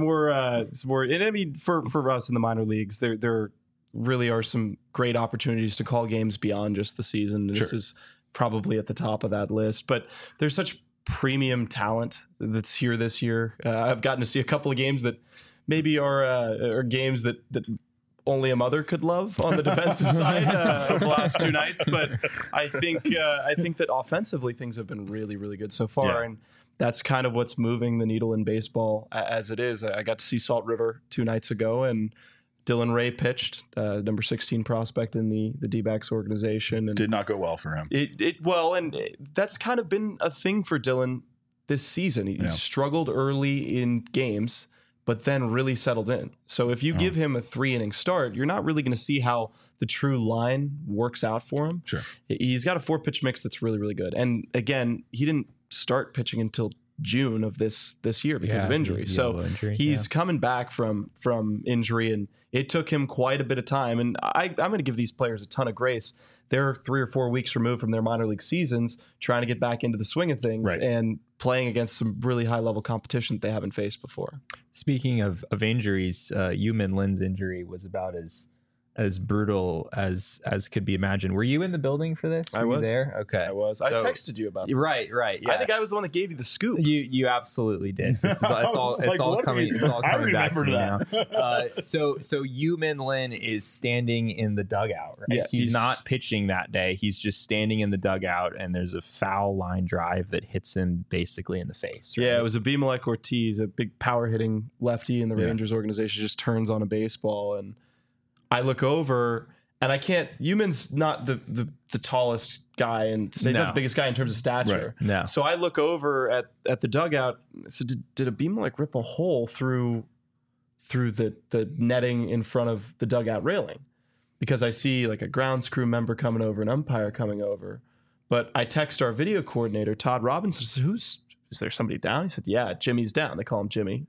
[SPEAKER 2] I mean, for us in the minor leagues, there really are some great opportunities to call games beyond just the season. This is probably at the top of that list, but there's such premium talent that's here this year. I've gotten to see a couple of games that maybe are games that only a mother could love on the defensive side of the last 2 nights. But I think that offensively things have been really, really good so far. And that's kind of what's moving the needle in baseball as it is. I got to see Salt River 2 nights ago, and Dylan Ray pitched, number 16 prospect in the D-backs organization. And
[SPEAKER 1] did not go well for him.
[SPEAKER 2] That's kind of been a thing for Dylan this season. He struggled early in games, but then really settled in. So if you give him a 3-inning start, you're not really going to see how the true line works out for him.
[SPEAKER 1] Sure.
[SPEAKER 2] He's got a 4-pitch mix that's really, really good. And again, he didn't start pitching until June of this year because of injury. So he's coming back from injury, and it took him quite a bit of time. And I'm going to give these players a ton of grace. They're 3 or 4 weeks removed from their minor league seasons, trying to get back into the swing of things and playing against some really high level competition that they haven't faced before.
[SPEAKER 3] Speaking of injuries, Yu-Min Lin's injury was about as brutal as could be imagined. Were you in the building for this?
[SPEAKER 2] I was
[SPEAKER 3] there. Okay,
[SPEAKER 2] I was. I texted you about it.
[SPEAKER 3] Right. Yes.
[SPEAKER 2] I think I was the one that gave you the scoop.
[SPEAKER 3] You absolutely did. It's all coming back to me now. So Yu-Min Lin is standing in the dugout. Right?
[SPEAKER 2] Yeah,
[SPEAKER 3] he's not pitching that day. He's just standing in the dugout, and there's a foul line drive that hits him basically in the face. Right?
[SPEAKER 2] Yeah, it was Abimelech Ortiz, a big power hitting lefty in the Rangers organization, just turns on a baseball, and I look over, and I can't. Yu-Min's not the tallest guy, and he's not the biggest guy in terms of stature.
[SPEAKER 3] Right. No.
[SPEAKER 2] So I look over at the dugout. So did Abimelech rip a hole through the netting in front of the dugout railing? Because I see like a grounds crew member coming over, an umpire coming over. But I text our video coordinator, Todd Robinson. I said, is there somebody down? He said, yeah, Jimmy's down. They call him Jimmy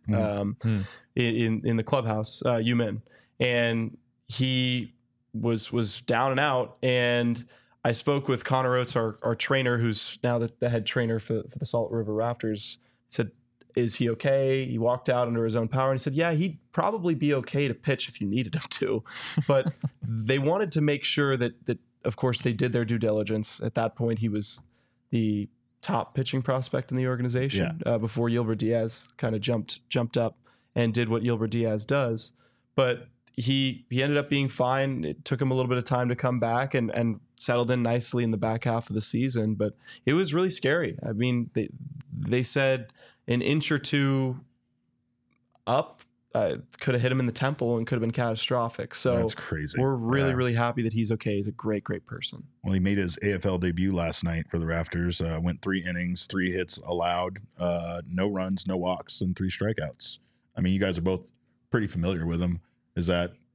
[SPEAKER 2] in the clubhouse, Yu-Min. And he was down and out, and I spoke with Connor Oates, our trainer, who's now the head trainer for the Salt River Raptors. Said, is he okay? He walked out under his own power, and he said, yeah, he'd probably be okay to pitch if you needed him to. But they wanted to make sure that of course they did their due diligence. At that point, he was the top pitching prospect in the organization before Yilbert Diaz kind of jumped up and did what Yilbert Diaz does. But he ended up being fine. It took him a little bit of time to come back and settled in nicely in the back half of the season. But it was really scary. I mean, they said an inch or two up could have hit him in the temple and could have been catastrophic. So
[SPEAKER 1] that's crazy.
[SPEAKER 2] We're really, really happy that he's okay. He's a great, great person.
[SPEAKER 1] Well, he made his AFL debut last night for the Raptors. Went 3 innings, 3 hits allowed, no runs, no walks, and 3 strikeouts. I mean, you guys are both pretty familiar with him. Is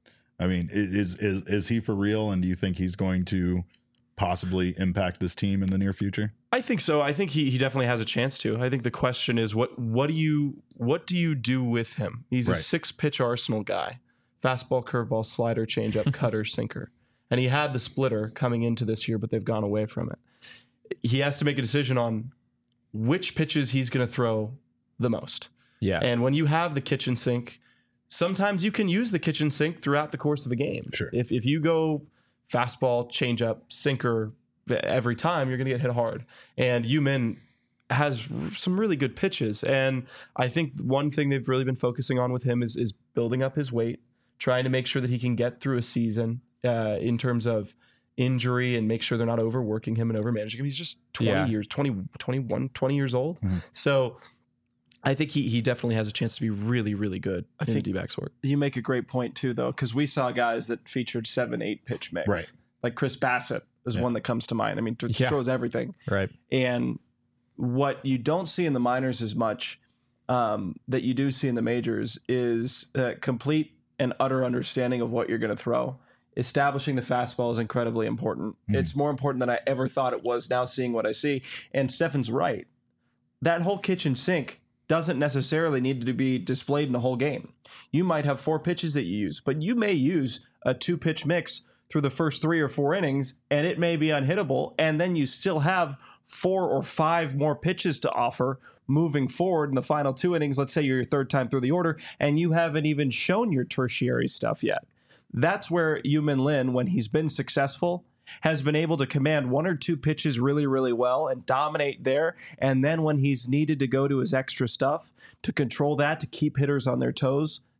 [SPEAKER 1] he for real? And do you think he's going to possibly impact this team in the near future?
[SPEAKER 2] I think so. I think he definitely has a chance to. I think the question is what do you do with him? He's a 6-pitch arsenal guy. Fastball, curveball, slider, changeup, cutter, sinker. And he had the splitter coming into this year, but they've gone away from it. He has to make a decision on which pitches he's going to throw the most.
[SPEAKER 3] Yeah.
[SPEAKER 2] And when you have the kitchen sink, sometimes you can use the kitchen sink throughout the course of a game.
[SPEAKER 1] Sure.
[SPEAKER 2] If you go fastball, changeup, sinker every time, you're going to get hit hard. And Yu-Min has some really good pitches. And I think one thing they've really been focusing on with him is building up his weight, trying to make sure that he can get through a season in terms of injury and make sure they're not overworking him and overmanaging him. He's just 20 years old. Mm-hmm. So I think he definitely has a chance to be really, really good in the D-backs work.
[SPEAKER 4] You make a great point too, though, because we saw guys that featured 7-8 pitch mix.
[SPEAKER 1] Right.
[SPEAKER 4] Like Chris Bassett is one that comes to mind. I mean, throws everything.
[SPEAKER 3] Right.
[SPEAKER 4] And what you don't see in the minors as much that you do see in the majors is complete and utter understanding of what you're going to throw. Establishing the fastball is incredibly important. It's more important than I ever thought it was now seeing what I see. And Stefan's right. That whole kitchen sink doesn't necessarily need to be displayed in a whole game. You might have 4 pitches that you use, but you may use a 2-pitch mix through the first 3 or 4 innings, and it may be unhittable, and then you still have 4 or 5 more pitches to offer moving forward in the final 2 innings. Let's say you're your 3rd time through the order, and you haven't even shown your tertiary stuff yet. That's where Yu-Min Lin, when he's been successful, has been able to command 1 or 2 pitches really, really well and dominate there. And then when he's needed to go to his extra stuff to control that, to keep hitters on their toes,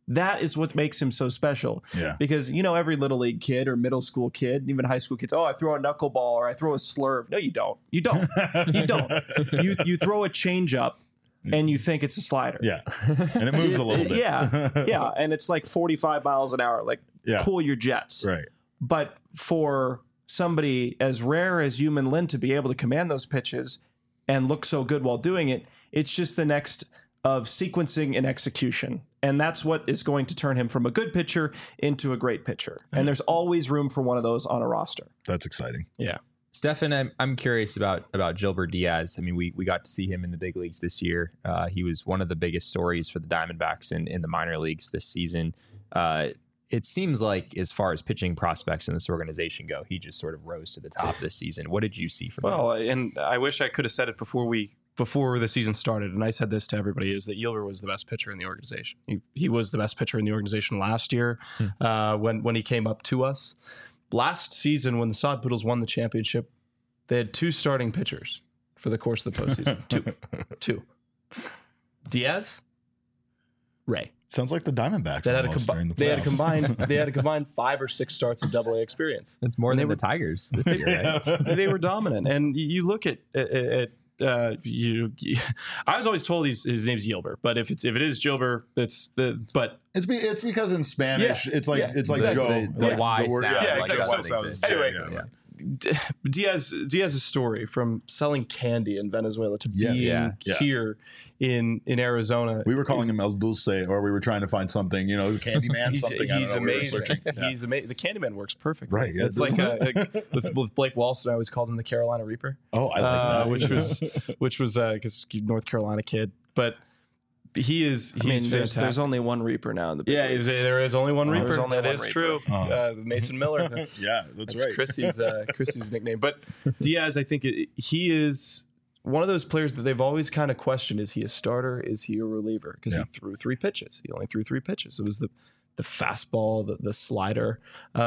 [SPEAKER 4] That is what makes him so special.
[SPEAKER 1] Yeah.
[SPEAKER 4] Because, every little league kid or middle school kid, even high school kids, I throw a knuckleball or I throw a slurve. No, you don't. You don't. You don't. You throw a changeup and you think it's a slider.
[SPEAKER 1] Yeah. And it moves a little bit.
[SPEAKER 4] Yeah. And it's like 45 miles an hour. Like, cool your jets.
[SPEAKER 1] Right.
[SPEAKER 4] But for somebody as rare as Yumin Lin to be able to command those pitches and look so good while doing it, it's just the next of sequencing and execution. And that's what is going to turn him from a good pitcher into a great pitcher. And there's always room for one of those on a roster.
[SPEAKER 1] That's exciting.
[SPEAKER 4] Yeah.
[SPEAKER 3] Stefan, I'm curious about Gilbert Diaz. I mean, we got to see him in the big leagues this year. He was one of the biggest stories for the Diamondbacks in the minor leagues this season. It seems like as far as pitching prospects in this organization go, he just sort of rose to the top this season. What did you see from him?
[SPEAKER 2] Well, and I wish I could have said it before the season started, and I said this to everybody, is that Yelver was the best pitcher in the organization. He was the best pitcher in the organization last year when he came up to us. Last season, when the Sod Poodles won the championship, they had 2 starting pitchers for the course of the postseason. Two. Diaz, Ray.
[SPEAKER 1] Sounds like the Diamondbacks.
[SPEAKER 2] They had a combined 5 or 6 starts of Double-A experience.
[SPEAKER 3] That's more than the Tigers this year, right?
[SPEAKER 2] They were dominant, and you look at I was always told his name's Yelver, but if it is Gilbert, it's
[SPEAKER 1] because in Spanish it's like
[SPEAKER 3] exactly.
[SPEAKER 1] Joe,
[SPEAKER 3] the Y sound.
[SPEAKER 2] Yeah,
[SPEAKER 3] exactly.
[SPEAKER 2] Anyway, Diaz's story from selling candy in Venezuela to being here in Arizona.
[SPEAKER 1] We were calling him El Dulce, or we were trying to find something, Candyman, something.
[SPEAKER 2] He's amazing. He's amazing. The Candyman works perfect.
[SPEAKER 1] Right. Yeah,
[SPEAKER 2] it's like with Blake Walston, I always called him the Carolina Reaper.
[SPEAKER 1] Oh, I like
[SPEAKER 2] that. which was because North Carolina kid, but. He's fantastic.
[SPEAKER 4] There's only one Reaper now in the big leagues.
[SPEAKER 2] There is only one Reaper. That is
[SPEAKER 4] Reaper.
[SPEAKER 2] True. Mason Miller. That's
[SPEAKER 1] right.
[SPEAKER 2] Chrissy's nickname. But Diaz, I think he is one of those players that they've always kind of questioned: is he a starter? Is he a reliever? Because he threw 3 pitches. He only threw 3 pitches. It was the fastball, the slider,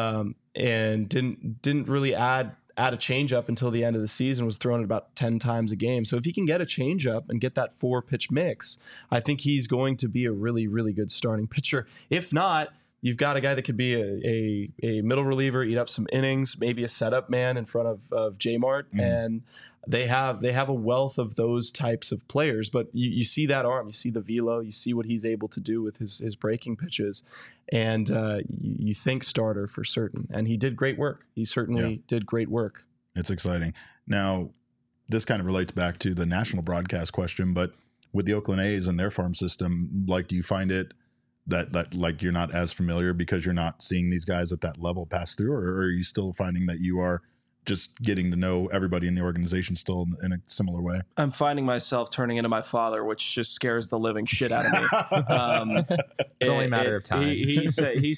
[SPEAKER 2] and didn't really add a changeup until the end of the season. Was thrown about 10 times a game. So if he can get a changeup and get that 4-pitch mix, I think he's going to be a really, really good starting pitcher. If not, you've got a guy that could be a middle reliever, eat up some innings, maybe a setup man in front of J-Mart. And they have a wealth of those types of players. But you see that arm, you see the velo, you see what he's able to do with his breaking pitches. And you think starter for certain. And he did great work. He certainly did great work.
[SPEAKER 1] It's exciting. Now, this kind of relates back to the national broadcast question, but with the Oakland A's and their farm system, do you find it that you're not as familiar because you're not seeing these guys at that level pass through, or are you still finding that you are just getting to know everybody in the organization still in a similar way?
[SPEAKER 4] I'm finding myself turning into my father, which just scares the living shit out of me.
[SPEAKER 3] It's only a matter of time.
[SPEAKER 4] He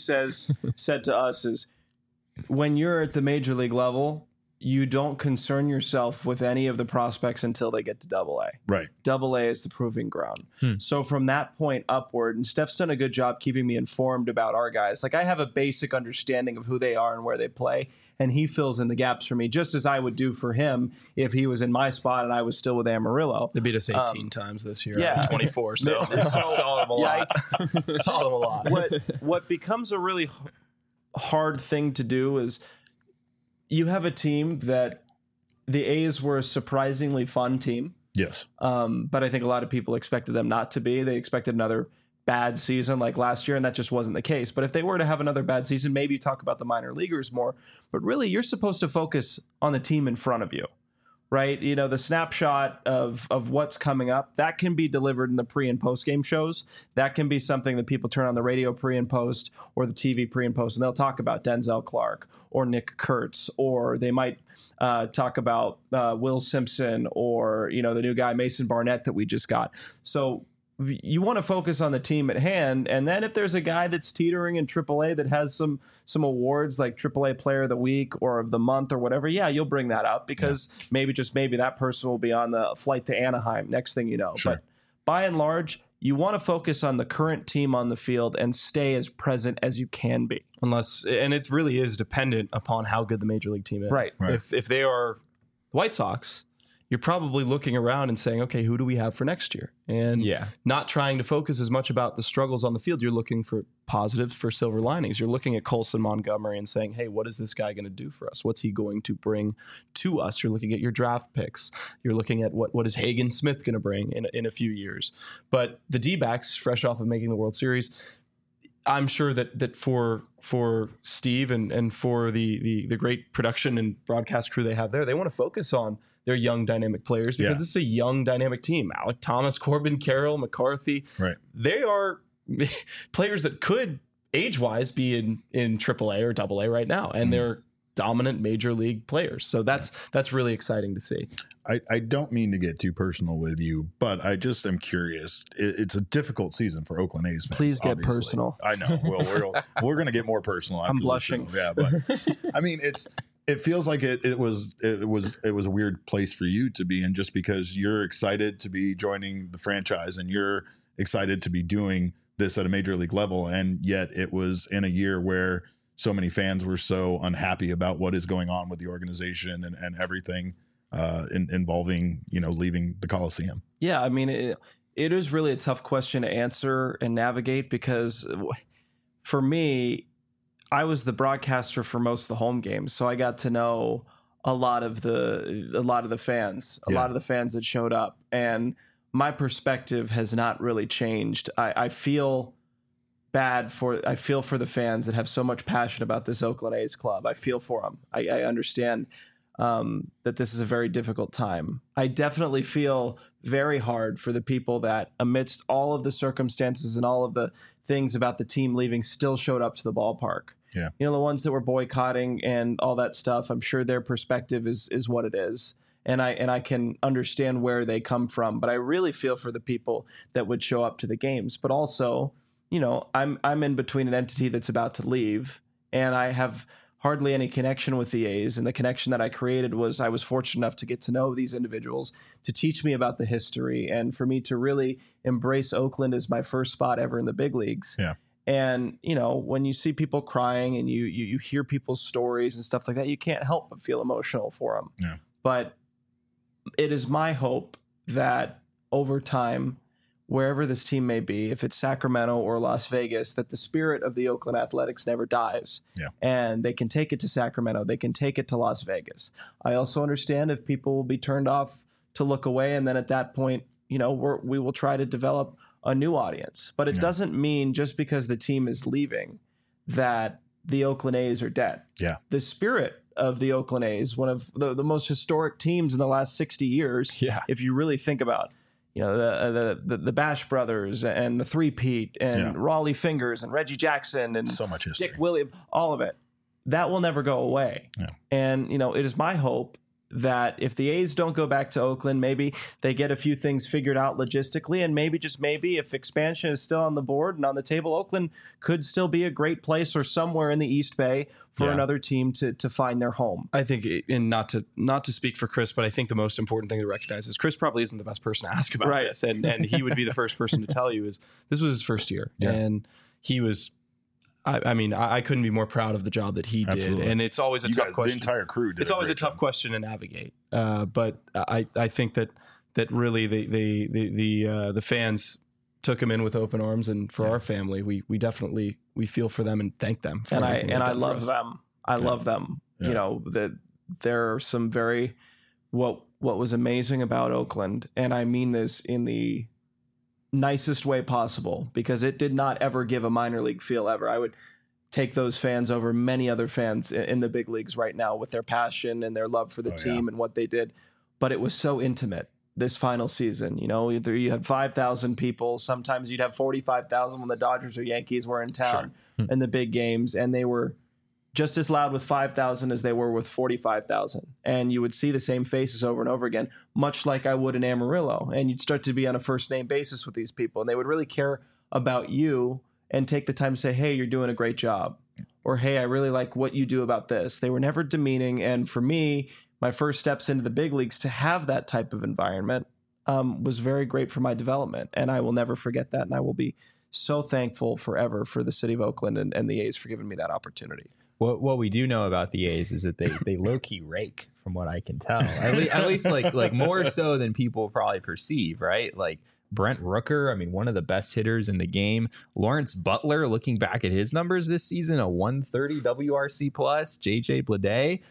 [SPEAKER 4] said to us is, when you're at the major league level, you don't concern yourself with any of the prospects until they get to Double-A.
[SPEAKER 1] Right.
[SPEAKER 4] Double-A is the proving ground. So from that point upward, and Steph's done a good job keeping me informed about our guys. Like, I have a basic understanding of who they are and where they play, and he fills in the gaps for me, just as I would do for him if he was in my spot and I was still with Amarillo.
[SPEAKER 2] They beat us 18 times this year.
[SPEAKER 4] Yeah.
[SPEAKER 2] 24, so saw them a lot. Saw them a lot.
[SPEAKER 4] What becomes a really hard thing to do is, you have a team that the A's were a surprisingly fun team.
[SPEAKER 1] Yes.
[SPEAKER 4] But I think a lot of people expected them not to be. They expected another bad season like last year, and that just wasn't the case. But if they were to have another bad season, maybe you talk about the minor leaguers more. But really, you're supposed to focus on the team in front of you, right? The snapshot of what's coming up, that can be delivered in the pre and post game shows. That can be something that people turn on the radio pre and post or the TV pre and post, and they'll talk about Denzel Clark or Nick Kurtz, or they might talk about Will Simpson or, the new guy, Mason Barnett, that we just got. So you want to focus on the team at hand. And then if there's a guy that's teetering in AAA that has some awards like AAA Player of the Week or of the Month or whatever, you'll bring that up because maybe that person will be on the flight to Anaheim next thing you know.
[SPEAKER 1] Sure.
[SPEAKER 4] But by and large, you want to focus on the current team on the field and stay as present as you can be.
[SPEAKER 2] And it really is dependent upon how good the major league team is.
[SPEAKER 4] Right.
[SPEAKER 2] If they are the White Sox, you're probably looking around and saying, okay, who do we have for next year? And not trying to focus as much about the struggles on the field. You're looking for positives, for silver linings. You're looking at Colson Montgomery and saying, hey, what is this guy going to do for us? What's he going to bring to us? You're looking at your draft picks. You're looking at what is Hagen Smith going to bring in a few years. But the D-backs, fresh off of making the World Series, I'm sure that for Steve and for the great production and broadcast crew they have there, they want to focus on their young dynamic players because this is a young dynamic team. Alec Thomas, Corbin Carroll, McCarthy.
[SPEAKER 1] Right.
[SPEAKER 2] They are players that could age-wise be in AAA or AA right now, and they're dominant major league players. So that's really exciting to see.
[SPEAKER 1] I don't mean to get too personal with you, but I just am curious. It's a difficult season for Oakland A's fans.
[SPEAKER 4] Please get personal.
[SPEAKER 1] I know. Well, we're going to get more personal.
[SPEAKER 4] I'm blushing.
[SPEAKER 1] Yeah, but I mean, it feels like it was a weird place for you to be in, just because you're excited to be joining the franchise and you're excited to be doing this at a major league level, and yet it was in a year where so many fans were so unhappy about what is going on with the organization and everything involving, leaving the Coliseum.
[SPEAKER 4] Yeah, I mean, it is really a tough question to answer and navigate, because for me, I was the broadcaster for most of the home games, so I got to know a lot of the fans, a lot of the fans that showed up, and my perspective has not really changed. I feel for the fans that have so much passion about this Oakland A's club. I feel for them. I understand that this is a very difficult time. I definitely feel very hard for the people that, amidst all of the circumstances and all of the things about the team leaving, still showed up to the ballpark.
[SPEAKER 1] Yeah.
[SPEAKER 4] The ones that were boycotting and all that stuff, I'm sure their perspective is what it is. And I can understand where they come from, but I really feel for the people that would show up to the games. But also, I'm in between an entity that's about to leave, and I have hardly any connection with the A's. And the connection that I created was, I was fortunate enough to get to know these individuals, to teach me about the history, and for me to really embrace Oakland as my first spot ever in the big leagues.
[SPEAKER 1] Yeah.
[SPEAKER 4] And, when you see people crying and you hear people's stories and stuff like that, you can't help but feel emotional for them.
[SPEAKER 1] Yeah.
[SPEAKER 4] But it is my hope that over time, wherever this team may be, if it's Sacramento or Las Vegas, that the spirit of the Oakland Athletics never dies.
[SPEAKER 1] Yeah.
[SPEAKER 4] And they can take it to Sacramento. They can take it to Las Vegas. I also understand if people will be turned off to look away. And then at that point, we will try to develop a new audience. But it doesn't mean just because the team is leaving that the Oakland A's are dead.
[SPEAKER 1] Yeah.
[SPEAKER 4] The spirit of the Oakland A's, one of the most historic teams in the last 60 years.
[SPEAKER 3] Yeah.
[SPEAKER 4] If you really think about, the Bash Brothers and the Three-Peat and Raleigh Fingers and Reggie Jackson and
[SPEAKER 1] so much history.
[SPEAKER 4] Dick Williams, all of it, that will never go away.
[SPEAKER 1] Yeah.
[SPEAKER 4] And, it is my hope that if the A's don't go back to Oakland, maybe they get a few things figured out logistically, and maybe, just maybe, if expansion is still on the board and on the table, Oakland could still be a great place, or somewhere in the East Bay for another team to find their home.
[SPEAKER 2] I think, and not to speak for Chris, but I think the most important thing to recognize is Chris probably isn't the best person to ask about this, and he would be the first person to tell you is this was his first year, and he was. I couldn't be more proud of the job that he did. And it's always a tough question.
[SPEAKER 1] The entire crew did.
[SPEAKER 2] It's always a tough question to navigate. But I think that really the fans took him in with open arms, and for our family, we definitely feel for them and thank them.
[SPEAKER 4] And I love them. I love them.
[SPEAKER 1] Yeah.
[SPEAKER 4] That there are some very what was amazing about Oakland, and I mean this in the nicest way possible, because it did not ever give a minor league feel ever. I would take those fans over many other fans in the big leagues right now with their passion and their love for the team and what they did. But it was so intimate this final season. Either you had 5,000 people, sometimes you'd have 45,000 when the Dodgers or Yankees were in town in the big games, and they were just as loud with 5,000 as they were with 45,000. And you would see the same faces over and over again, much like I would in Amarillo. And you'd start to be on a first name basis with these people, and they would really care about you and take the time to say, hey, you're doing a great job. Or, hey, I really like what you do about this. They were never demeaning. And for me, my first steps into the big leagues, to have that type of environment was very great for my development. And I will never forget that. And I will be so thankful forever for the city of Oakland and the A's for giving me that opportunity.
[SPEAKER 3] What we do know about the A's is that they low key rake, from what I can tell. At least like more so than people probably perceive, right? Like Brent Rooker, I mean, one of the best hitters in the game. Lawrence Butler, looking back at his numbers this season, a 130 WRC plus. JJ Bleday.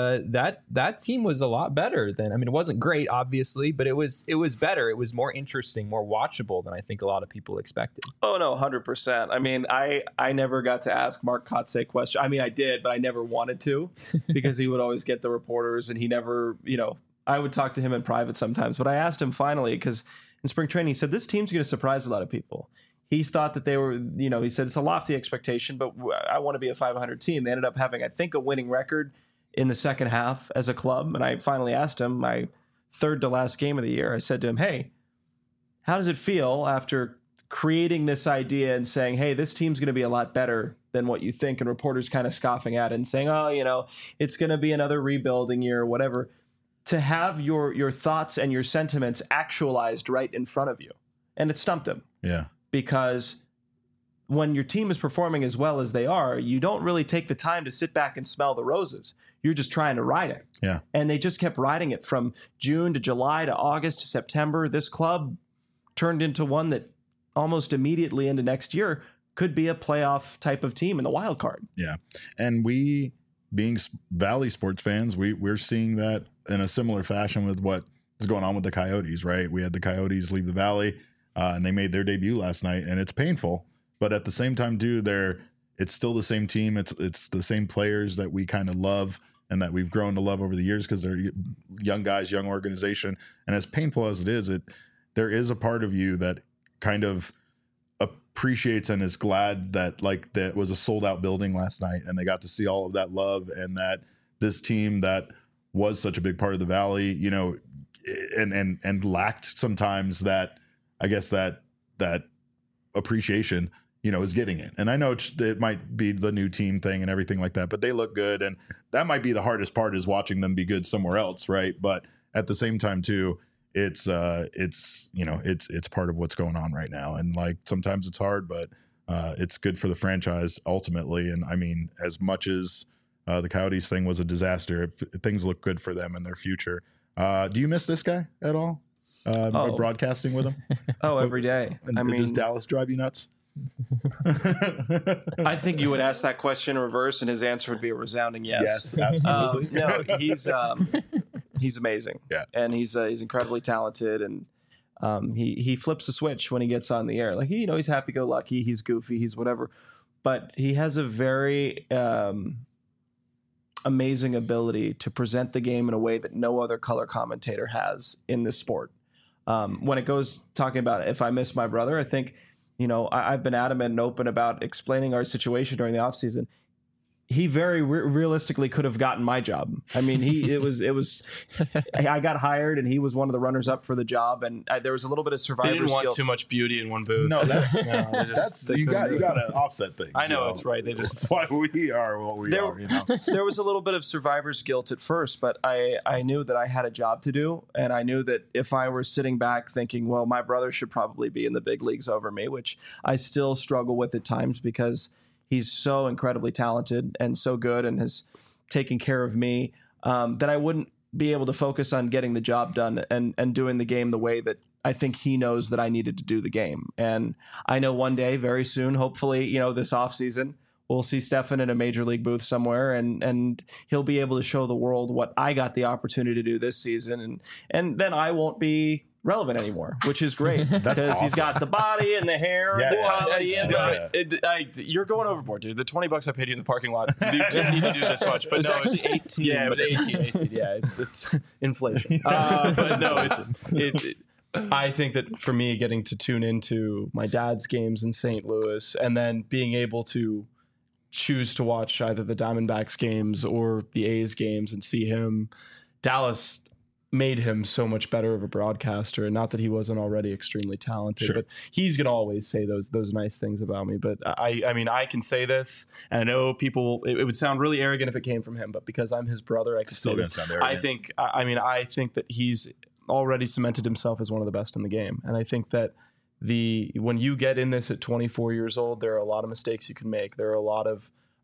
[SPEAKER 3] That team was a lot better than, I mean, it wasn't great, obviously, but it was better. It was more interesting, more watchable than I think a lot of people expected.
[SPEAKER 4] Oh, no, 100%. I mean, I never got to ask Mark Kotsay questions. I mean, I did, but I never wanted to because he would always get the reporters and he never, I would talk to him in private sometimes. But I asked him finally because in spring training, he said, this team's going to surprise a lot of people. He thought that they were, he said, it's a lofty expectation, but I want to be a 500 team. They ended up having, I think, a winning record in the second half as a club. And I finally asked him, my third to last game of the year, I said to him, hey, how does it feel after creating this idea and saying, hey, this team's going to be a lot better than what you think? And reporters kind of scoffing at it and saying, oh, it's going to be another rebuilding year or whatever. To have your thoughts and your sentiments actualized right in front of you. And it stumped him.
[SPEAKER 1] Yeah.
[SPEAKER 4] Because when your team is performing as well as they are, you don't really take the time to sit back and smell the roses. You're just trying to ride it.
[SPEAKER 1] Yeah.
[SPEAKER 4] And they just kept riding it from June to July to August to September. This club turned into one that almost immediately into next year could be a playoff type of team in the wild card.
[SPEAKER 1] Yeah. And we, being Valley sports fans, we're seeing that in a similar fashion with what is going on with the Coyotes, right? We had the Coyotes leave the Valley and they made their debut last night, and it's painful. But at the same time, too, it's still the same team. It's the same players that we kind of love and that we've grown to love over the years because they're young guys, young organization. And as painful as it is, there is a part of you that kind of appreciates and is glad that that was a sold out building last night and they got to see all of that love and that this team that was such a big part of the Valley, and lacked sometimes that, I guess that appreciation, is getting it. And I know it might be the new team thing and everything like that, but they look good. And that might be the hardest part, is watching them be good somewhere else. Right. But at the same time too, it's part of what's going on right now. And sometimes it's hard, but it's good for the franchise ultimately. And I mean, as much as the Coyotes thing was a disaster, things look good for them and their future. Do you miss this guy at all? Broadcasting with him?
[SPEAKER 4] Every day.
[SPEAKER 1] Does Dallas drive you nuts?
[SPEAKER 4] I think you would ask that question in reverse, and his answer would be a resounding yes.
[SPEAKER 1] Yes, absolutely.
[SPEAKER 4] No, he's amazing.
[SPEAKER 1] Yeah,
[SPEAKER 4] and he's incredibly talented, and he flips a switch when he gets on the air. He's happy-go-lucky, he's goofy, he's whatever, but he has a very amazing ability to present the game in a way that no other color commentator has in this sport. When it goes talking about if I miss my brother, I think, I've been adamant and open about explaining our situation during the offseason. He very realistically could have gotten my job. I mean, I got hired and he was one of the runners up for the job. And there was a little bit of survivor
[SPEAKER 2] They didn't want
[SPEAKER 4] skill.
[SPEAKER 2] Too much beauty in one booth.
[SPEAKER 1] No, you got to offset things.
[SPEAKER 2] I know, that's right.
[SPEAKER 1] That's why we are what we are.
[SPEAKER 4] There was a little bit of survivor's guilt at first, but I knew that I had a job to do. And I knew that if I were sitting back thinking, well, my brother should probably be in the big leagues over me, which I still struggle with at times because he's so incredibly talented and so good and has taken care of me, that I wouldn't be able to focus on getting the job done and doing the game the way that I think he knows that I needed to do the game. And I know one day, very soon, hopefully, this offseason, we'll see Stefan in a major league booth somewhere and he'll be able to show the world what I got the opportunity to do this season. And then I won't be relevant anymore, which is great because awesome. He's got the body and the hair, the comedy.
[SPEAKER 2] You're going overboard, dude. The $20 I paid you in the parking lot, you didn't need to do this much. But
[SPEAKER 4] it's actually 18.
[SPEAKER 2] Yeah, it was 18. Yeah, it's inflation. But no, I think that for me, getting to tune into my dad's games in St. Louis and then being able to choose to watch either the Diamondbacks games or the A's games and see him, Dallas made him so much better of a broadcaster. And not that he wasn't already extremely talented, but he's going to always say those nice things about me. But I mean, I can say this, and I know people, it would sound really arrogant if it came from him, but because I'm his brother, I can still sound arrogant. I think that he's already cemented himself as one of the best in the game. And I think that when you get in this at 24 years old, there are a lot of mistakes you can make. There are a lot of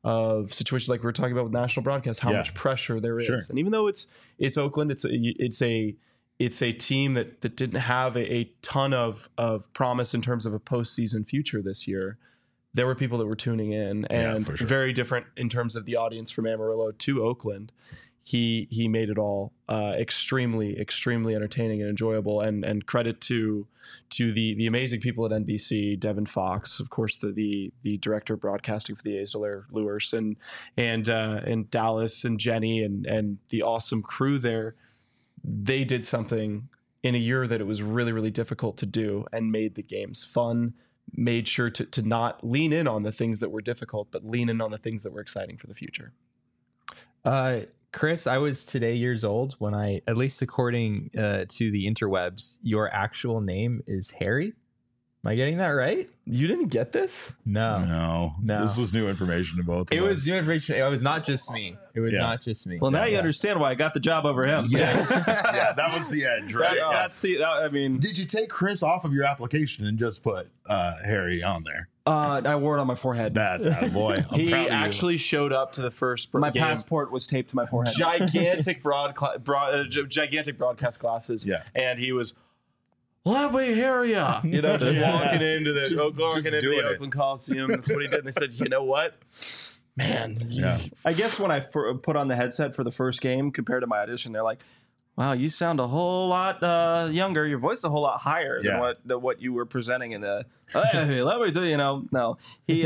[SPEAKER 2] of situations like we were talking about with national broadcast, how much pressure there is. And even though it's Oakland, it's a team that didn't have a ton of promise in terms of a postseason future this year. There were people that were tuning in, and very different in terms of the audience from Amarillo to Oakland. He made it all extremely entertaining and enjoyable, and credit to the amazing people at NBC, Devin Fox, of course, the director of broadcasting for the A's, Delaire Lewis, and Dallas and Jenny and the awesome crew there. They did something in a year that it was really difficult to do, and made the games fun. Made sure to not lean in on the things that were difficult, but lean in on the things that were exciting for the future.
[SPEAKER 3] Chris, I was today years old when I, at least according to the interwebs, your actual name is Harry. Am I getting that right?
[SPEAKER 2] You didn't get this?
[SPEAKER 3] No.
[SPEAKER 1] This was new information to both of us.
[SPEAKER 3] It was new information. It was not just me. Not just me.
[SPEAKER 4] Well, now you understand why I got the job over him.
[SPEAKER 1] Yes. That was the edge, right?
[SPEAKER 4] I mean,
[SPEAKER 1] did you take Chris off of your application and just put Harry on there?
[SPEAKER 4] I wore it on my forehead.
[SPEAKER 1] Bad boy.
[SPEAKER 2] He actually showed up to the first.
[SPEAKER 4] My passport was taped to my forehead.
[SPEAKER 2] Gigantic gigantic broadcast glasses.
[SPEAKER 1] Yeah,
[SPEAKER 2] and he was. Let me hear ya. Just walking into the Oakland Coliseum. That's what he did. And they said, you know what? Man.
[SPEAKER 1] Yeah.
[SPEAKER 4] I guess when I put on the headset for the first game compared to my audition, they're like, wow, you sound a whole lot younger. Your voice is a whole lot higher than what you were presenting in the, hey, let me do, no. He,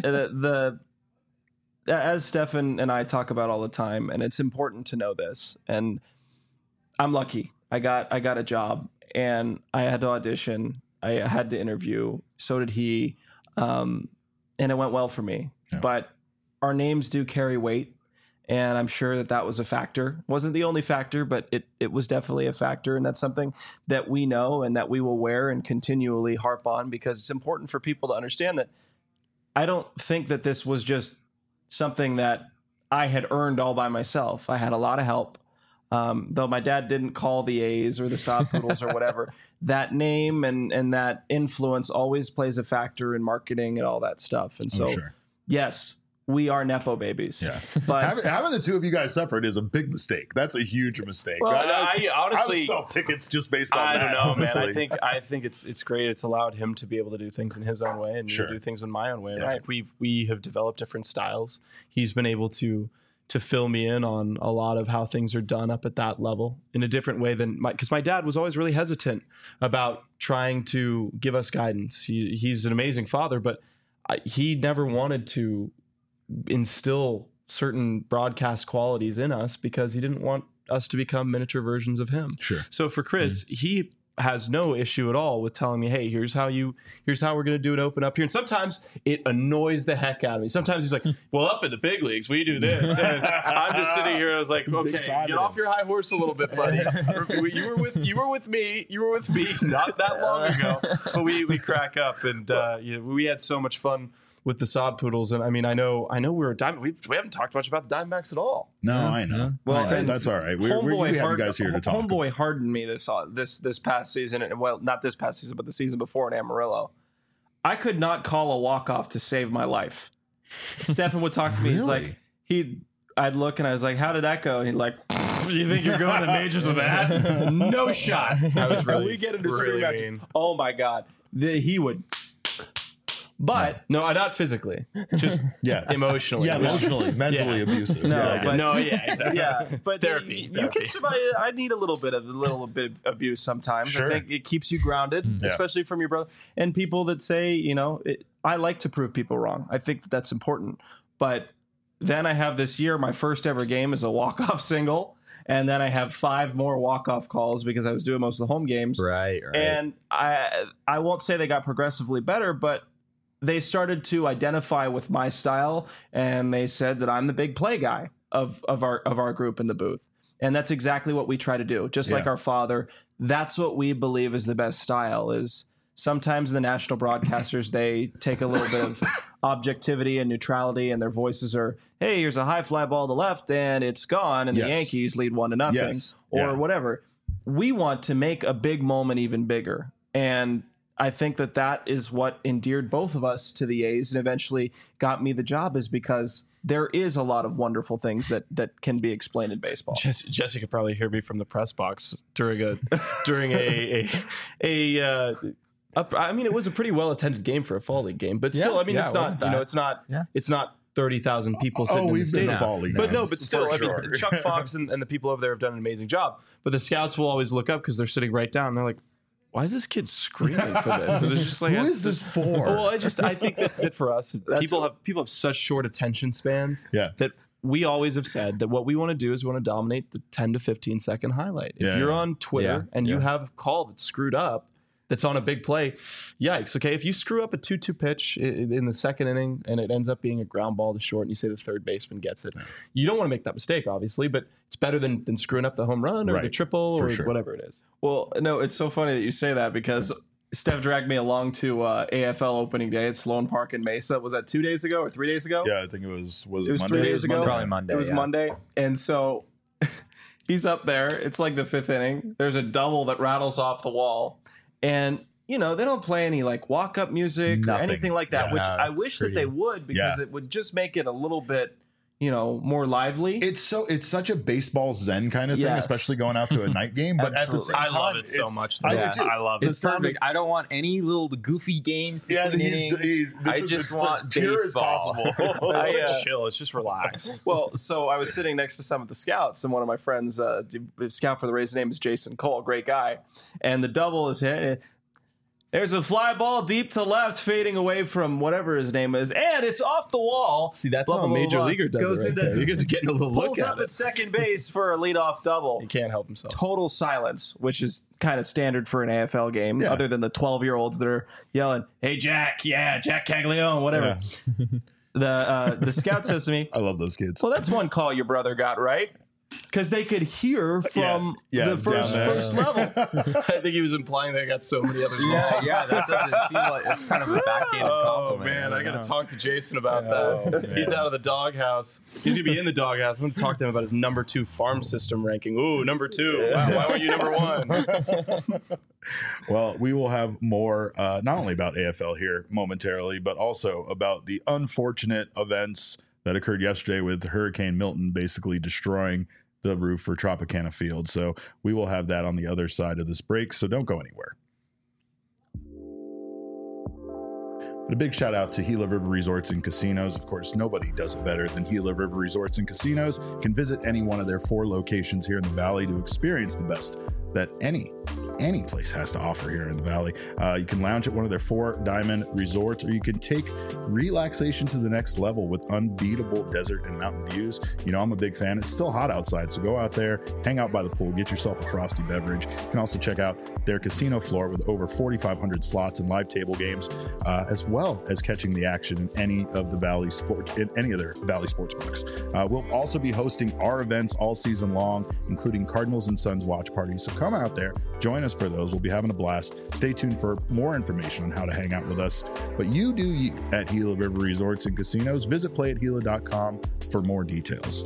[SPEAKER 4] as Stefan and I talk about all the time, and it's important to know this, and I'm lucky. I got a job. And I had to audition. I had to interview. So did he. And it went well for me. Yeah. But our names do carry weight. And I'm sure that was a factor. It wasn't the only factor, but it was definitely a factor. And that's something that we know and that we will wear and continually harp on, because it's important for people to understand that I don't think that this was just something that I had earned all by myself. I had a lot of help. Though my dad didn't call the A's or the Sod Poodles or whatever, that name and that influence always plays a factor in marketing and all that stuff. And so, yes, we are Nepo babies.
[SPEAKER 1] Yeah.
[SPEAKER 4] But
[SPEAKER 1] having the two of you guys separate is a big mistake. That's a huge mistake.
[SPEAKER 2] Well, I honestly
[SPEAKER 1] would sell tickets just based on that.
[SPEAKER 2] I don't know, honestly. Man. I think it's great. It's allowed him to be able to do things in his own way and me to do things in my own way. Right? We have developed different styles. He's been able to fill me in on a lot of how things are done up at that level in a different way than because my dad was always really hesitant about trying to give us guidance. He's an amazing father, but he never wanted to instill certain broadcast qualities in us because he didn't want us to become miniature versions of him.
[SPEAKER 1] Sure.
[SPEAKER 2] So for Chris, he has no issue at all with telling me, hey, here's how we're going to do it, open up here. And sometimes it annoys the heck out of me. Sometimes he's like, well, up in the big leagues, we do this. And I'm just sitting here. I was like, okay, get off your high horse a little bit, buddy. You were with me not that long ago. But we crack up, and we had so much fun with the Sod Poodles. And I mean, I know we're a Diamondbacks. We haven't talked much about the Diamondbacks at all.
[SPEAKER 1] No, I know. Well, that's all right. We have you guys here to talk.
[SPEAKER 4] Homeboy hardened me this past season. Well, not this past season, but the season before in Amarillo. I could not call a walk-off to save my life. Stefan would talk to me.
[SPEAKER 1] Really?
[SPEAKER 4] He's like, I'd look and I was like, how did that go? And he'd like, you think you're going to majors with that? No shot.
[SPEAKER 2] That was really,
[SPEAKER 4] we get into really matches. Oh my God. He would. But
[SPEAKER 2] no, not physically, just emotionally.
[SPEAKER 1] Yeah, emotionally, mentally abusive.
[SPEAKER 2] Exactly.
[SPEAKER 4] Yeah, but therapy. You can survive. I need a little bit of abuse sometimes.
[SPEAKER 1] Sure.
[SPEAKER 4] I think it keeps you grounded, especially from your brother and people that say, I like to prove people wrong. I think that's important. But then I have this year, my first ever game is a walk-off single. And then I have 5 more walk-off calls because I was doing most of the home games.
[SPEAKER 3] Right.
[SPEAKER 4] And I won't say they got progressively better, but they started to identify with my style, and they said that I'm the big play guy of our group in the booth. And that's exactly what we try to do. Just like our father, that's what we believe is the best style. Is sometimes the national broadcasters, they take a little bit of objectivity and neutrality, and their voices are, hey, here's a high fly ball to left, and it's gone, and the Yankees lead 1-0, or whatever. We want to make a big moment even bigger. And I think that is what endeared both of us to the A's and eventually got me the job, is because there is a lot of wonderful things that can be explained in baseball.
[SPEAKER 2] Jesse could probably hear me from the press box during a I mean, it was a pretty well attended game for a fall league game, but still, I mean, it's not it's not 30,000 people sitting in the stadium. But still, sure. I mean, Chuck Fox and the people over there have done an amazing job. But the scouts will always look up because they're sitting right down. And they're like, why is this kid screaming for this? And it's just like,
[SPEAKER 1] who is this for?
[SPEAKER 2] Well, I think that for us, people have such short attention spans that we always have said that what we want to do is we want to dominate the 10 to 15 second highlight. If you're on Twitter and you have a call that's screwed up, that's on a big play, yikes. Okay, if you screw up a 2-2 pitch in the second inning and it ends up being a ground ball to short and you say the third baseman gets it, you don't want to make that mistake, obviously, but it's better than screwing up the home run or the triple or whatever it is.
[SPEAKER 4] Well, no, it's so funny that you say that, because Steph dragged me along to AFL opening day at Sloan Park in Mesa. Was that 2 days ago or 3 days ago?
[SPEAKER 1] Yeah, I think it was Monday?
[SPEAKER 4] 3 days ago?
[SPEAKER 3] It was probably Monday.
[SPEAKER 4] It was Monday. And so he's up there. It's like the fifth inning. There's a double that rattles off the wall. And, they don't play any like walk-up music or anything like that, which I wish that they would, because it would just make it a little bit, more lively.
[SPEAKER 1] It's such a baseball zen kind of thing, especially going out to a night game. But at the same time,
[SPEAKER 2] I love it so much.
[SPEAKER 1] I do too.
[SPEAKER 2] I love it.
[SPEAKER 3] It's perfect. I don't want any little goofy games.
[SPEAKER 1] Yeah,
[SPEAKER 3] I just want baseball.
[SPEAKER 2] It's chill. It's just relaxed.
[SPEAKER 4] Well, so I was sitting next to some of the scouts, and one of my friends, the scout for the Rays, name is Jason Cole, great guy, and the double is hit. There's a fly ball deep to left, fading away from whatever his name is, and it's off the wall.
[SPEAKER 2] See, that's how a major leaguer does it.
[SPEAKER 4] You
[SPEAKER 2] guys are getting a little look at it.
[SPEAKER 4] Pulls up at second base for a leadoff double.
[SPEAKER 2] He can't help himself.
[SPEAKER 4] Total silence, which is kind of standard for an AFL game, other than the 12-year-olds that are yelling, "Hey, Jack, Jack Caglione, whatever." Yeah. The scout says to me,
[SPEAKER 1] I love those kids.
[SPEAKER 4] Well, that's one call your brother got right. Because they could hear from the first level.
[SPEAKER 2] I think he was implying they got so many others.
[SPEAKER 3] Yeah, that doesn't seem like it's kind of a backhanded compliment.
[SPEAKER 2] Oh man, I got to talk to Jason about that. Man. He's out of the doghouse. He's gonna be in the doghouse. I'm gonna talk to him about his number 2 farm system ranking. Ooh, number 2. Wow, why were you number 1?
[SPEAKER 1] Well, we will have more, not only about AFL here momentarily, but also about the unfortunate events that occurred yesterday with Hurricane Milton basically destroying the roof for Tropicana Field. So we will have that on the other side of this break, so don't go anywhere. But a big shout out to Gila River Resorts and Casinos. Of course, nobody does it better than Gila River Resorts and Casinos. You can visit any one of their 4 locations here in the Valley to experience the best that any place has to offer here in the Valley. You can lounge at one of their 4 diamond resorts, or you can take relaxation to the next level with unbeatable desert and mountain views. I'm a big fan. It's still hot outside, so go out there, hang out by the pool, get yourself a frosty beverage. You can also check out their casino floor with over 4,500 slots and live table games, as well as catching the action in any of the Valley sports, in any of their Valley sports books. We'll also be hosting our events all season long, including Cardinals and Sons watch parties. So come out there, join us for those. We'll be having a blast. Stay tuned for more information on how to hang out with us. But you do you at Gila River Resorts and Casinos. Visit playatgila.com for more details.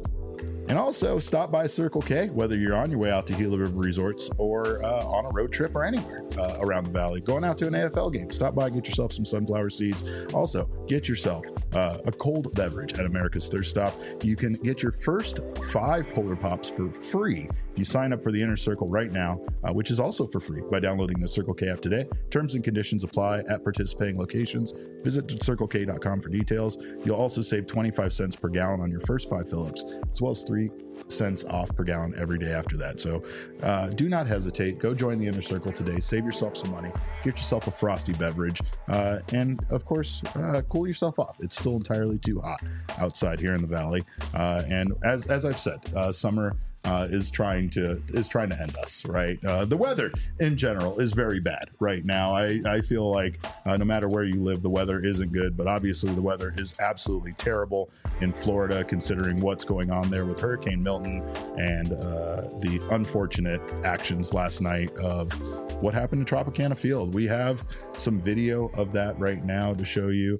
[SPEAKER 1] And also stop by Circle K, whether you're on your way out to Gila River Resorts or on a road trip or anywhere around the Valley. Going out to an AFL game, stop by, get yourself some sunflower seeds. Also, get yourself a cold beverage at America's Thirst Stop. You can get your first 5 Polar Pops for free. You sign up for the Inner Circle right now, which is also for free by downloading the Circle K app today. Terms and conditions apply at participating locations. Visit CircleK.com for details. You'll also save 25 cents per gallon on your first 5 fill-ups, as well as 3 cents off per gallon every day after that. So do not hesitate. Go join the Inner Circle today. Save yourself some money. Get yourself a frosty beverage. And, of course, cool yourself off. It's still entirely too hot outside here in the Valley. And as I've said, summer is trying to end us, right? The weather in general is very bad right now. I feel like no matter where you live, the weather isn't good, but obviously the weather is absolutely terrible in Florida, considering what's going on there with Hurricane Milton and the unfortunate actions last night of what happened to Tropicana Field. We have some video of that right now to show you.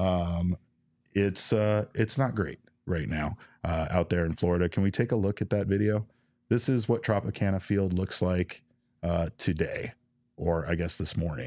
[SPEAKER 1] It's not great right now out there in Florida. Can we take a look at that video? This is what Tropicana Field looks like today, or I guess this morning.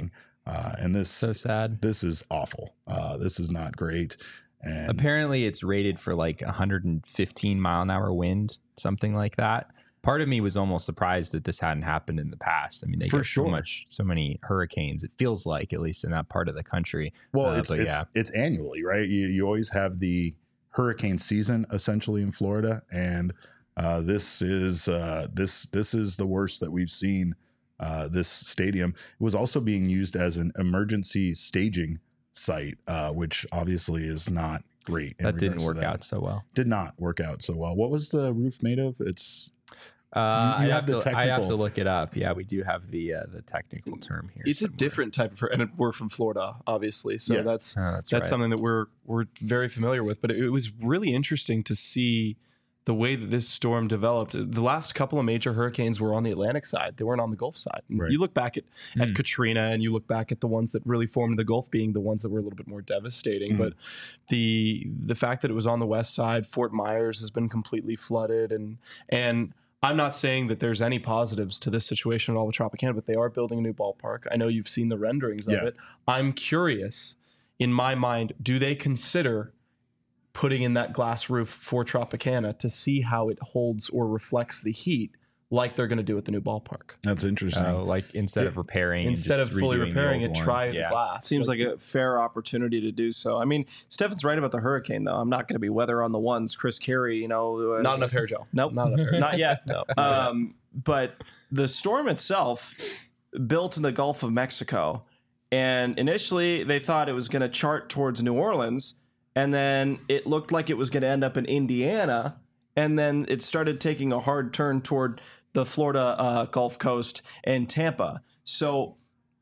[SPEAKER 1] And this
[SPEAKER 3] so sad.
[SPEAKER 1] This is awful. This is not great. And
[SPEAKER 3] apparently it's rated for like 115 mile an hour wind, something like that. Part of me was almost surprised that this hadn't happened in the past. I mean, they get so many hurricanes. It feels like, at least in that part of the country.
[SPEAKER 1] Well, it's annually, right? You always have the hurricane season essentially in Florida, and this is the worst that we've seen. This stadium was also being used as an emergency staging site, which obviously is not great.
[SPEAKER 3] That didn't work out so well.
[SPEAKER 1] Did not work out so well. What was the roof made of? It's
[SPEAKER 3] I have to look it up. Yeah, we do have the technical term here.
[SPEAKER 2] It's somewhere. A different type of, and we're from Florida, obviously, so that's right. Something that we're very familiar with. But it was really interesting to see the way that this storm developed. The last couple of major hurricanes were on the Atlantic side; they weren't on the Gulf side. Right. You look back at Katrina, and you look back at the ones that really formed the Gulf, being the ones that were a little bit more devastating. But the fact that it was on the west side, Fort Myers has been completely flooded, and I'm not saying that there's any positives to this situation at all with Tropicana, but they are building a new ballpark. I know you've seen the renderings of it. I'm curious, in my mind, do they consider putting in that glass roof for Tropicana to see how it holds or reflects the heat, like they're going to do at the new ballpark?
[SPEAKER 1] That's interesting.
[SPEAKER 3] Like instead of
[SPEAKER 2] fully repairing it, try the glass.
[SPEAKER 4] Seems like a fair opportunity to do so. I mean, Stefan's right about the hurricane, though. I'm not going to be weather on the ones. Chris Carey,
[SPEAKER 2] not enough hair gel.
[SPEAKER 4] Nope, not enough hair. Not yet. No. But the storm itself built in the Gulf of Mexico, and initially they thought it was going to chart towards New Orleans, and then it looked like it was going to end up in Indiana, and then it started taking a hard turn toward the Florida Gulf Coast and Tampa. So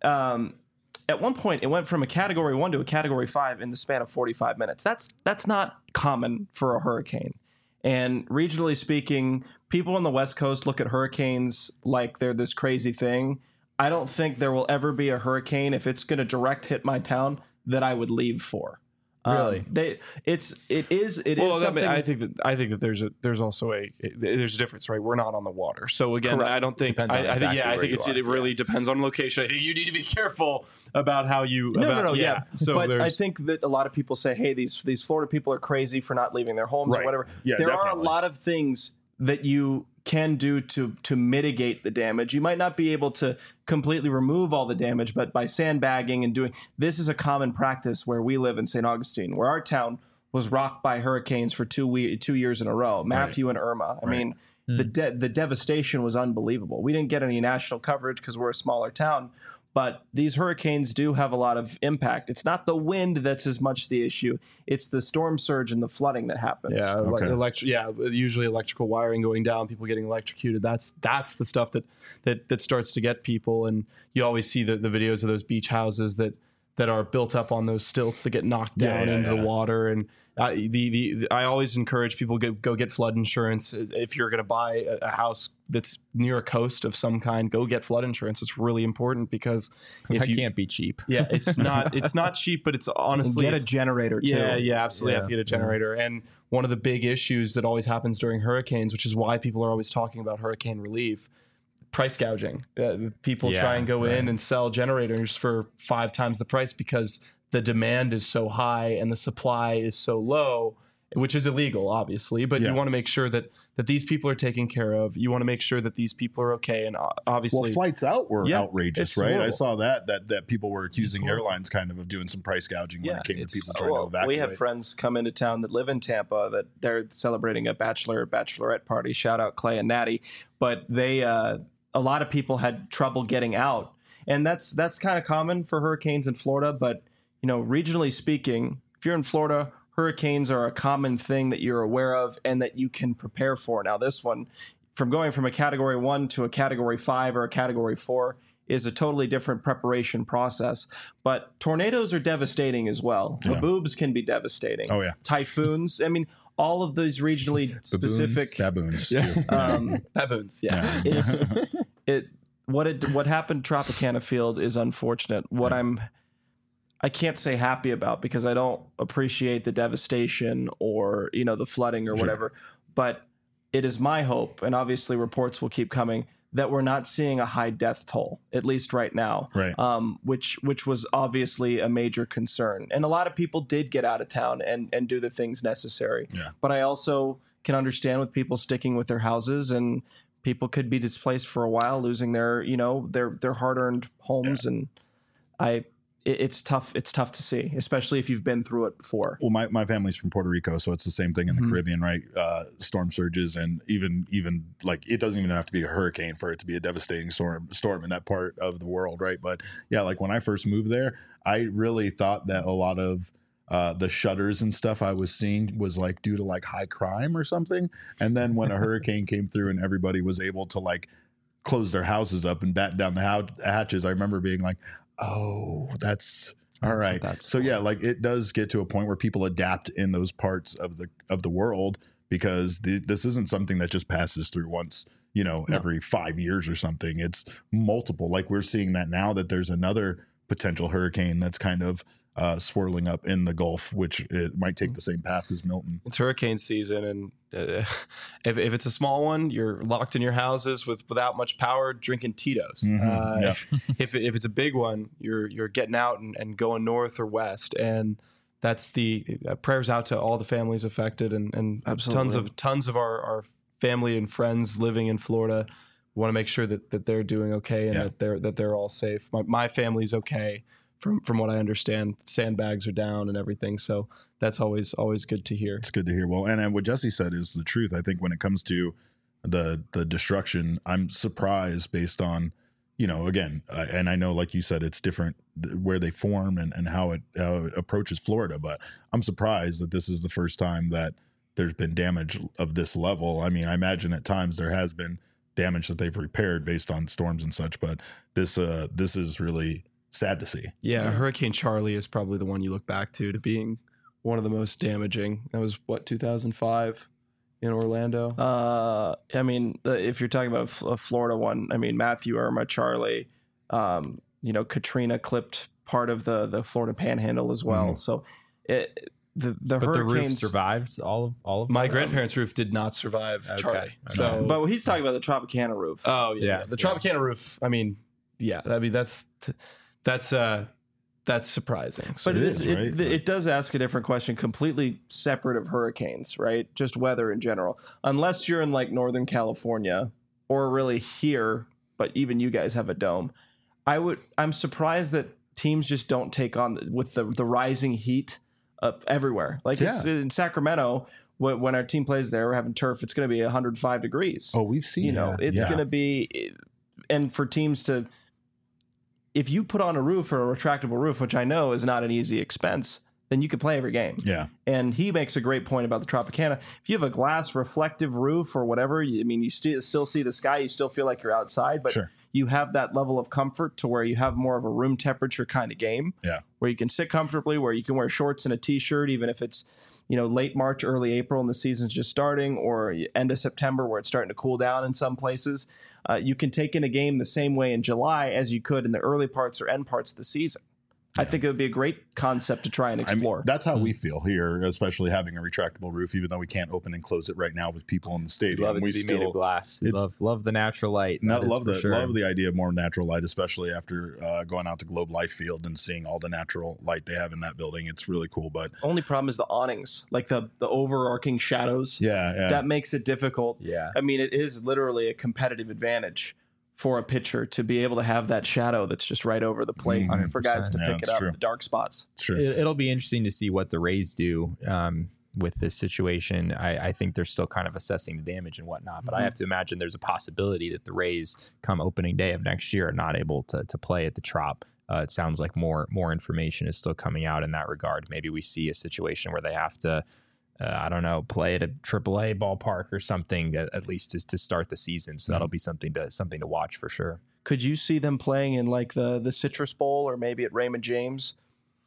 [SPEAKER 4] at one point, it went from a Category 1 to a Category 5 in the span of 45 minutes. That's not common for a hurricane. And regionally speaking, people on the West Coast look at hurricanes like they're this crazy thing. I don't think there will ever be a hurricane, if it's going to direct hit my town, that I would leave for.
[SPEAKER 3] Really?
[SPEAKER 2] It is something. I think that there's also a difference, right? We're not on the water, so again, correct. I don't think. I think it really depends on location. I think you need to be careful about how you.
[SPEAKER 4] No. So, but I think that a lot of people say, "Hey, these Florida people are crazy for not leaving their homes or whatever." Yeah, there are a lot of things that you can do to mitigate the damage. You might not be able to completely remove all the damage, but by sandbagging and this is a common practice where we live in St. Augustine, where our town was rocked by hurricanes for 2 years in a row, Matthew and Irma. I mean, the devastation was unbelievable. We didn't get any national coverage because we're a smaller town, but these hurricanes do have a lot of impact. It's not the wind that's as much the issue. It's the storm surge and the flooding that happens.
[SPEAKER 2] Yeah, usually electrical wiring going down, people getting electrocuted. That's the stuff that starts to get people. And you always see the videos of those beach houses that are built up on those stilts that get knocked down into the water. And I always encourage people go get flood insurance. If you're going to buy a house that's near a coast of some kind, go get flood insurance. It's really important because
[SPEAKER 3] it can't be cheap.
[SPEAKER 2] Yeah, it's not cheap, but it's honestly
[SPEAKER 4] get a generator too.
[SPEAKER 2] Yeah, absolutely. Have to get a generator. And one of the big issues that always happens during hurricanes, which is why people are always talking about hurricane relief, price gouging. People try and go in and sell generators for 5 times the price because the demand is so high and the supply is so low, which is illegal, obviously. But you want to make sure that these people are taken care of. You want to make sure that these people are okay. And obviously,
[SPEAKER 1] flights out were outrageous, right? Horrible. I saw that people were accusing airlines kind of doing some price gouging when it came to people trying to evacuate.
[SPEAKER 4] We have friends come into town that live in Tampa that they're celebrating a bachelorette party. Shout out Clay and Natty. But they a lot of people had trouble getting out, and that's kind of common for hurricanes in Florida. But regionally speaking, if you're in Florida, hurricanes are a common thing that you're aware of and that you can prepare for. Now, this one, from going from a Category 1 to a Category 5 or a Category 4, is a totally different preparation process. But tornadoes are devastating as well. Yeah. Haboobs can be devastating.
[SPEAKER 1] Oh, yeah.
[SPEAKER 4] Typhoons. I mean, all of those regionally specific...
[SPEAKER 1] Baboons.
[SPEAKER 2] Baboons,
[SPEAKER 4] What happened to Tropicana Field is unfortunate. I can't say happy about because I don't appreciate the devastation or the flooding or whatever, but it is my hope, and obviously reports will keep coming, that we're not seeing a high death toll, at least right now,
[SPEAKER 1] right?
[SPEAKER 4] Which was obviously a major concern. And a lot of people did get out of town and do the things necessary.
[SPEAKER 1] Yeah.
[SPEAKER 4] But I also can understand with people sticking with their houses, and people could be displaced for a while, losing their hard-earned homes. And it's tough. It's tough to see, especially if you've been through it before.
[SPEAKER 1] Well, my family's from Puerto Rico, so it's the same thing in the Caribbean, right? Storm surges, and even like it doesn't even have to be a hurricane for it to be a devastating storm in that part of the world, right? But yeah, like when I first moved there, I really thought that a lot of the shutters and stuff I was seeing was like due to like high crime or something. And then when a hurricane came through and everybody was able to like close their houses up and batten down the hatches, I remember being like, oh, that's all right. So yeah, like it does get to a point where people adapt in those parts of the world, because this isn't something that just passes through once, every 5 years or something. It's multiple. Like we're seeing that now, that there's another potential hurricane that's kind of swirling up in the Gulf, which it might take the same path as Milton.
[SPEAKER 2] It's hurricane season, and if it's a small one, you're locked in your houses without much power, drinking Tito's. If it's a big one, you're getting out and going north or west, and that's the prayers out to all the families affected, and tons of our family and friends living in Florida. We want to make sure that they're doing okay, and that they're all safe. My family's okay. From what I understand, sandbags are down and everything. So that's always good to hear.
[SPEAKER 1] It's good to hear. Well, and what Jesse said is the truth. I think when it comes to the destruction, I'm surprised based on, again, and I know, like you said, it's different where they form and how it approaches Florida. But I'm surprised that this is the first time that there's been damage of this level. I mean, I imagine at times there has been damage that they've repaired based on storms and such. But this is really sad to see.
[SPEAKER 2] Yeah, Hurricane Charlie is probably the one you look back to being one of the most damaging. That was 2005 in Orlando.
[SPEAKER 4] I mean, if you're talking about a Florida one, I mean, Matthew, Irma, Charlie, Katrina clipped part of the Florida Panhandle as well. So the hurricanes,
[SPEAKER 3] the roof survived all of
[SPEAKER 2] my grandparents' roof did not survive Charlie.
[SPEAKER 4] So, but he's talking about the Tropicana roof.
[SPEAKER 2] Oh yeah, the Tropicana roof. I mean, that's surprising.
[SPEAKER 4] So but it does ask a different question, completely separate of hurricanes, right? Just weather in general. Unless you're in like Northern California or really here, but even you guys have a dome. I'm surprised that teams just don't take on with the rising heat everywhere. Like it's in Sacramento, when our team plays there, we're having turf. It's going to be 105 degrees.
[SPEAKER 1] Oh, we've seen
[SPEAKER 4] it's going to be, and for teams to. If you put on a roof or a retractable roof, which I know is not an easy expense, then you can play every game.
[SPEAKER 1] Yeah.
[SPEAKER 4] And he makes a great point about the Tropicana. If you have a glass reflective roof or whatever, you still see the sky, you still feel like you're outside, but you have that level of comfort to where you have more of a room temperature kind of game.
[SPEAKER 1] Yeah.
[SPEAKER 4] Where you can sit comfortably, where you can wear shorts and a t-shirt, even if it's late March, early April, and the season's just starting, or end of September where it's starting to cool down in some places. You can take in a game the same way in July as you could in the early parts or end parts of the season. I think it would be a great concept to try and explore.
[SPEAKER 1] I mean, that's how we feel here, especially having a retractable roof, even though we can't open and close it right now with people in the stadium.
[SPEAKER 3] Love it to be made of glass. Love the natural light.
[SPEAKER 1] Love the idea of more natural light, especially after going out to Globe Life Field and seeing all the natural light they have in that building. It's really cool. But
[SPEAKER 4] only problem is the awnings, like the overarching shadows.
[SPEAKER 1] Yeah.
[SPEAKER 4] That makes it difficult.
[SPEAKER 3] Yeah.
[SPEAKER 4] I mean, it is literally a competitive advantage for a pitcher to be able to have that shadow that's just right over the plate for guys to pick it up in the dark spots.
[SPEAKER 1] True.
[SPEAKER 3] It'll be interesting to see what the Rays do with this situation. I think they're still kind of assessing the damage and whatnot, but I have to imagine there's a possibility that the Rays come opening day of next year are not able to play at the Trop. It sounds like more information is still coming out in that regard. Maybe we see a situation where they have to play at a AAA ballpark or something, at least to start the season. So that'll be something to watch for sure.
[SPEAKER 4] Could you see them playing in like the Citrus Bowl or maybe at Raymond James?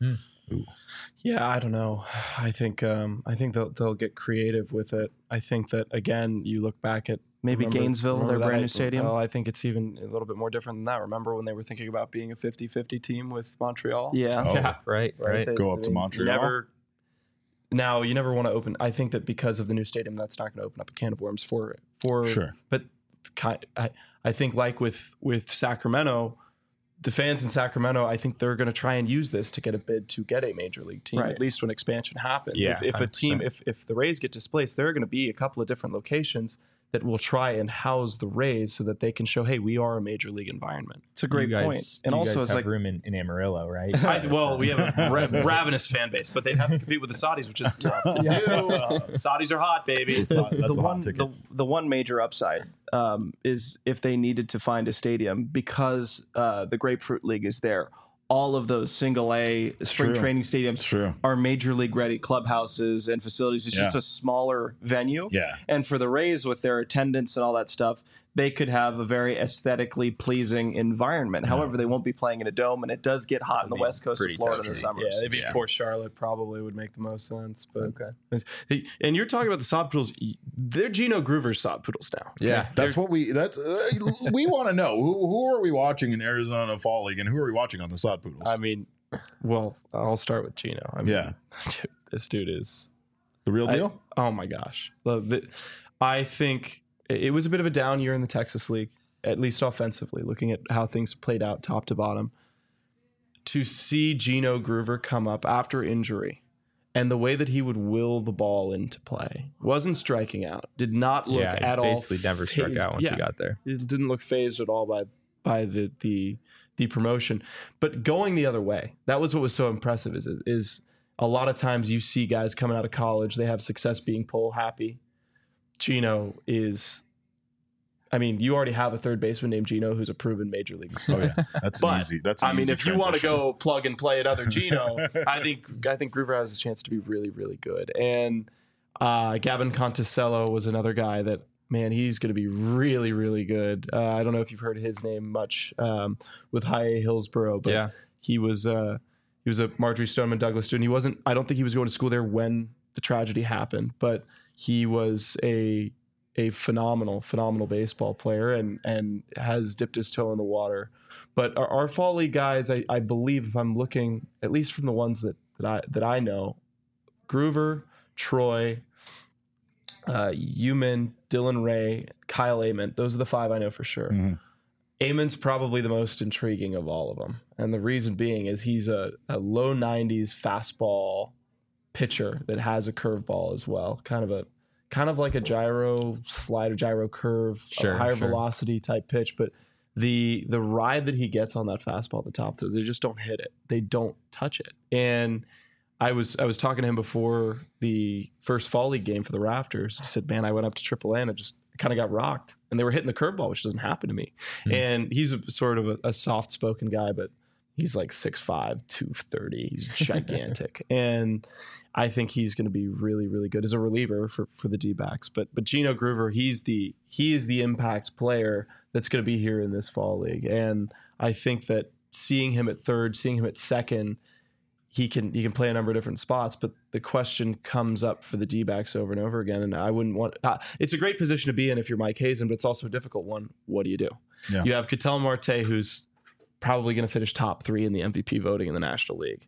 [SPEAKER 2] Yeah, I don't know. I think they'll get creative with it. I think that, again, you look back at
[SPEAKER 4] maybe Gainesville, their brand new stadium.
[SPEAKER 2] Oh, I think it's even a little bit more different than that. Remember when they were thinking about being a 50-50 team with Montreal?
[SPEAKER 4] Yeah.
[SPEAKER 3] Right.
[SPEAKER 1] Go up to Montreal.
[SPEAKER 2] You never want to open. I think that because of the new stadium, that's not going to open up a can of worms for
[SPEAKER 1] sure.
[SPEAKER 2] But I think like with Sacramento, the fans in Sacramento, I think they're going to try and use this to get a bid to get a major league team, at least when expansion happens.
[SPEAKER 3] Yeah,
[SPEAKER 2] if a team, if the Rays get displaced, there are going to be a couple of different locations that will try and house the Rays so that they can show, hey, we are a major league environment.
[SPEAKER 4] It's a great point.
[SPEAKER 3] And also, it's like room in Amarillo, right?
[SPEAKER 2] We have a ravenous fan base, but they have to compete with the Saudis, which is tough to do. Saudis are hot, baby.
[SPEAKER 1] That's a hot ticket.
[SPEAKER 4] The one major upside is if they needed to find a stadium, because the Grapefruit League is there. All of those single A spring training stadiums are major league ready clubhouses and facilities. It's just a smaller venue.
[SPEAKER 1] Yeah.
[SPEAKER 4] And for the Rays, with their attendance and all that stuff, they could have a very aesthetically pleasing environment. However, they won't be playing in a dome, and it does get hot in the west coast of Florida in the summer.
[SPEAKER 2] Yeah, maybe Port Charlotte probably would make the most sense. But and you're talking about the sod poodles. They're Gino Groover's sod poodles now.
[SPEAKER 3] Yeah,
[SPEAKER 1] that's what we want to know. Who are we watching in Arizona Fall League, and who are we watching on the sod poodles?
[SPEAKER 2] I mean, well, I'll start with Gino. I mean, dude, this dude is
[SPEAKER 1] the real deal.
[SPEAKER 2] Oh my gosh, I think. It was a bit of a down year in the Texas League, at least offensively, looking at how things played out top to bottom. To see Gino Groover come up after injury and the way that he would will the ball into play, wasn't striking out, did not look at all.
[SPEAKER 3] Basically never struck out once he got there.
[SPEAKER 2] It didn't look phased at all by the promotion. But going the other way, that was what was so impressive is a lot of times you see guys coming out of college, they have success being pull happy. Gino is, I mean, you already have a third baseman named Gino who's a proven major league.
[SPEAKER 1] Oh yeah, that's easy. That's an easy
[SPEAKER 2] if you want to go plug and play another Gino, I think Groover has a chance to be really, really good. And Gavin Conticello was another guy that, man, he's going to be really, really good. I don't know if you've heard his name much with High Hillsboro, but he was a Marjorie Stoneman Douglas student. I don't think he was going to school there when the tragedy happened, but he was a phenomenal baseball player and has dipped his toe in the water. But our fall league guys, I believe, if I'm looking at least from the ones that I know, Groover, Troy, Eumann, Dylan Ray, Kyle Amon, those are the five I know for sure. Mm-hmm. Amon's probably the most intriguing of all of them, and the reason being is he's a low 90s fastball pitcher that has a curveball as well, kind of like a gyro curve, higher velocity type pitch. But the ride that he gets on that fastball at the top, they just don't hit it. They don't touch it. And I was talking to him before the first fall league game for the Rafters. He said, man, I went up to AAA and I kind of got rocked, and they were hitting the curveball, which doesn't happen to me. Mm-hmm. And he's sort of a soft spoken guy, but he's like 6'5", 230. He's gigantic. And I think he's going to be really, really good as a reliever for the D-backs. But Gino Groover, he is the impact player that's going to be here in this fall league. And I think that seeing him at third, seeing him at second, he can play a number of different spots. But the question comes up for the D-backs over and over again. And I wouldn't want it's a great position to be in if you're Mike Hazen, but it's also a difficult one. What do you do? Yeah. You have Ketel Marte, who's probably going to finish top 3 in the MVP voting in the National League.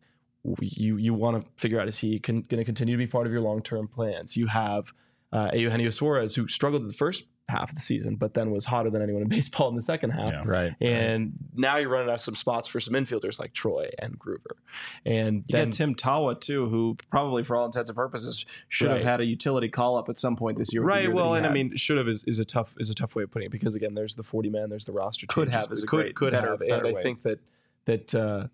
[SPEAKER 2] You want to figure out, is he going to continue to be part of your long-term plans? You have Eugenio Suarez, who struggled in the first half of the season, but then was hotter than anyone in baseball in the second half.
[SPEAKER 1] Yeah, right.
[SPEAKER 2] And now you're running out of some spots for some infielders like Troy and Groover. And
[SPEAKER 4] you got Tim Tawa too, who probably for all intents and purposes should have had a utility call up at some point this year.
[SPEAKER 2] Right. Well, and I mean, should have is a tough way of putting it, because again, there's the 40 man, there's the roster.
[SPEAKER 4] Could have is a great better
[SPEAKER 2] and
[SPEAKER 4] way.
[SPEAKER 2] I think that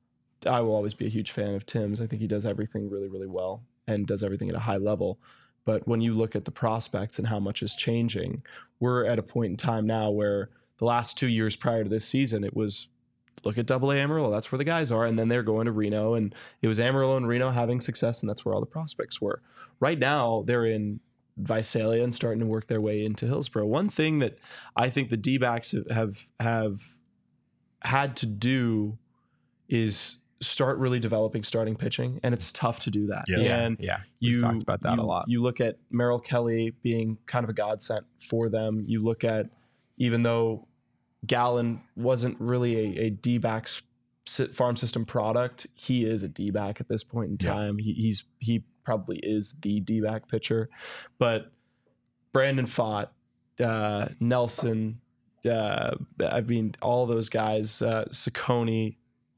[SPEAKER 2] I will always be a huge fan of Tim's. I think he does everything really, really well and does everything at a high level. But when you look at the prospects and how much is changing, we're at a point in time now where the last 2 years prior to this season, it was look at AA Amarillo. That's where the guys are. And then they're going to Reno, and it was Amarillo and Reno having success, and that's where all the prospects were. Right now, they're in Visalia and starting to work their way into Hillsboro. One thing that I think the D-backs have had to do is start really developing starting pitching, and it's tough to do that.
[SPEAKER 3] You talked about that a lot.
[SPEAKER 2] You look at Merrill Kelly being kind of a godsend for them. You look at, even though Gallen wasn't really a D-backs farm system product, he is a D-back at this point in time. He probably is the D-back pitcher. But Brandon Pfaadt, Nelson. I mean, all those guys, Saccone,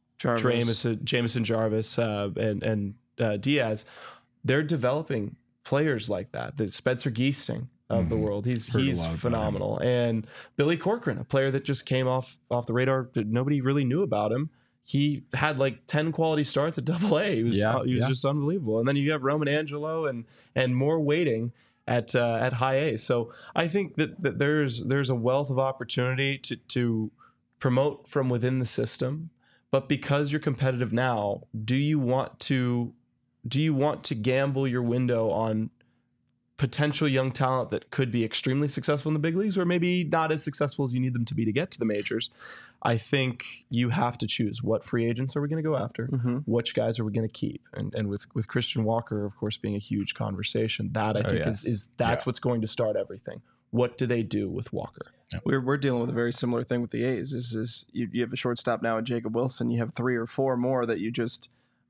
[SPEAKER 2] Jameson Jarvis, and Diaz, they're developing players like that. The Spencer Geesting of the world. He's phenomenal. And Billy Corcoran, a player that just came off the radar that nobody really knew about him. He had like 10 quality starts at AA. He was just unbelievable. And then you have Roman Angelo and more waiting at high A. So I think that there's a wealth of opportunity to promote from within the system. But because you're competitive now, do you want to gamble your window on potential young talent that could be extremely successful in the big leagues, or maybe not as successful as you need them to be to get to the majors? I think you have to choose what free agents are we going to go after, which guys are we going to keep, and with Christian Walker, of course, being a huge conversation, that I think is what's going to start everything. What do they do with Walker?
[SPEAKER 4] We're dealing with a very similar thing with the A's. Is you have a shortstop now in Jacob Wilson. You have 3 or 4 more that you just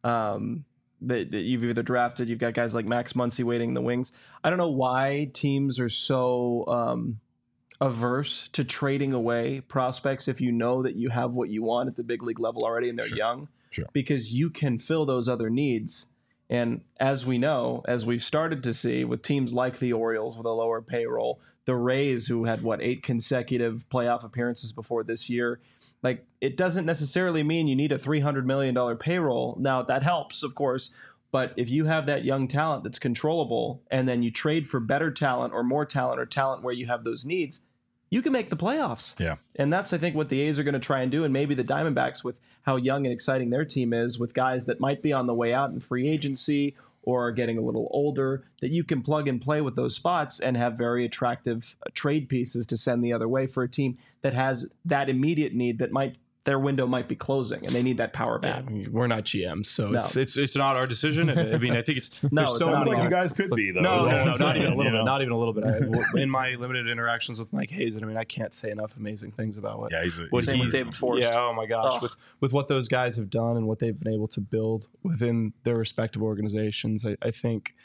[SPEAKER 4] that you've either drafted. You've got guys like Max Muncy waiting in the wings. I don't know why teams are so averse to trading away prospects if you know that you have what you want at the big league level already and they're young, because you can fill those other needs. And as we know, as we've started to see with teams like the Orioles with a lower payroll, the Rays, who had 8 consecutive playoff appearances before this year, like, it doesn't necessarily mean you need a $300 million payroll. Now, that helps, of course, but if you have that young talent that's controllable and then you trade for better talent or more talent or talent where you have those needs, you can make the playoffs.
[SPEAKER 1] Yeah.
[SPEAKER 4] And that's, I think, what the A's are going to try and do. And maybe the Diamondbacks, with how young and exciting their team is, with guys that might be on the way out in free agency or are getting a little older, that you can plug and play with those spots and have very attractive trade pieces to send the other way for a team that has that immediate need that their window might be closing and they need that power back.
[SPEAKER 2] Yeah, we're not GMs, so it's not our decision. I mean, I think it's
[SPEAKER 1] sounds like you guys could be though.
[SPEAKER 2] No, not even a little bit. Not even a little bit. In my limited interactions with Mike Hazen, I mean, I can't say enough amazing things about what
[SPEAKER 1] he's
[SPEAKER 4] with David Forst.
[SPEAKER 2] Yeah, oh my gosh, with what those guys have done and what they've been able to build within their respective organizations, I think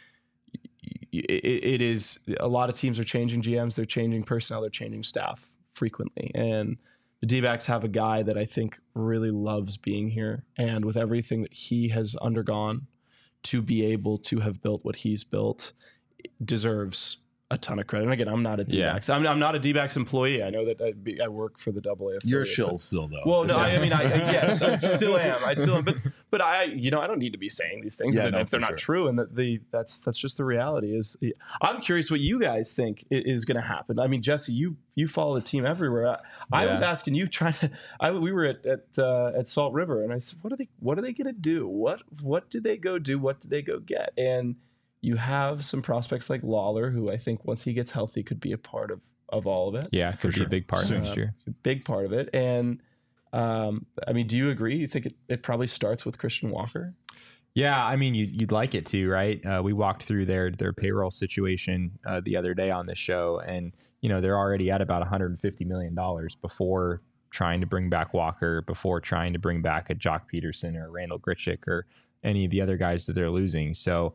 [SPEAKER 2] it is, a lot of teams are changing GMs, they're changing personnel, they're changing staff frequently, and the D-backs have a guy that I think really loves being here, and with everything that he has undergone to be able to have built what he's built, deserves a ton of credit. And again, I'm not a D-backs. I'm not a D-backs employee. I know that I work for the AA.
[SPEAKER 1] You're a shill still, though.
[SPEAKER 2] Well, no, I mean, yes, I still am. But I don't need to be saying these things if they're not true. And that's just the reality. I'm curious what you guys think is going to happen. I mean, Jesse, you follow the team everywhere. I was asking you, we were at Salt River, and I said, what are they going to do? What do they go do? What do they go get? And you have some prospects like Lawler, who I think once he gets healthy could be a part of all of it.
[SPEAKER 3] Yeah, could be a big part next year.
[SPEAKER 2] A big part of it. And I mean, do you agree? You think it probably starts with Christian Walker?
[SPEAKER 3] Yeah, I mean, you'd like it to, right? We walked through their payroll situation the other day on the show, and they're already at about $150 million before trying to bring back Walker, before trying to bring back a Jock Peterson or Randall Grichuk or any of the other guys that they're losing. So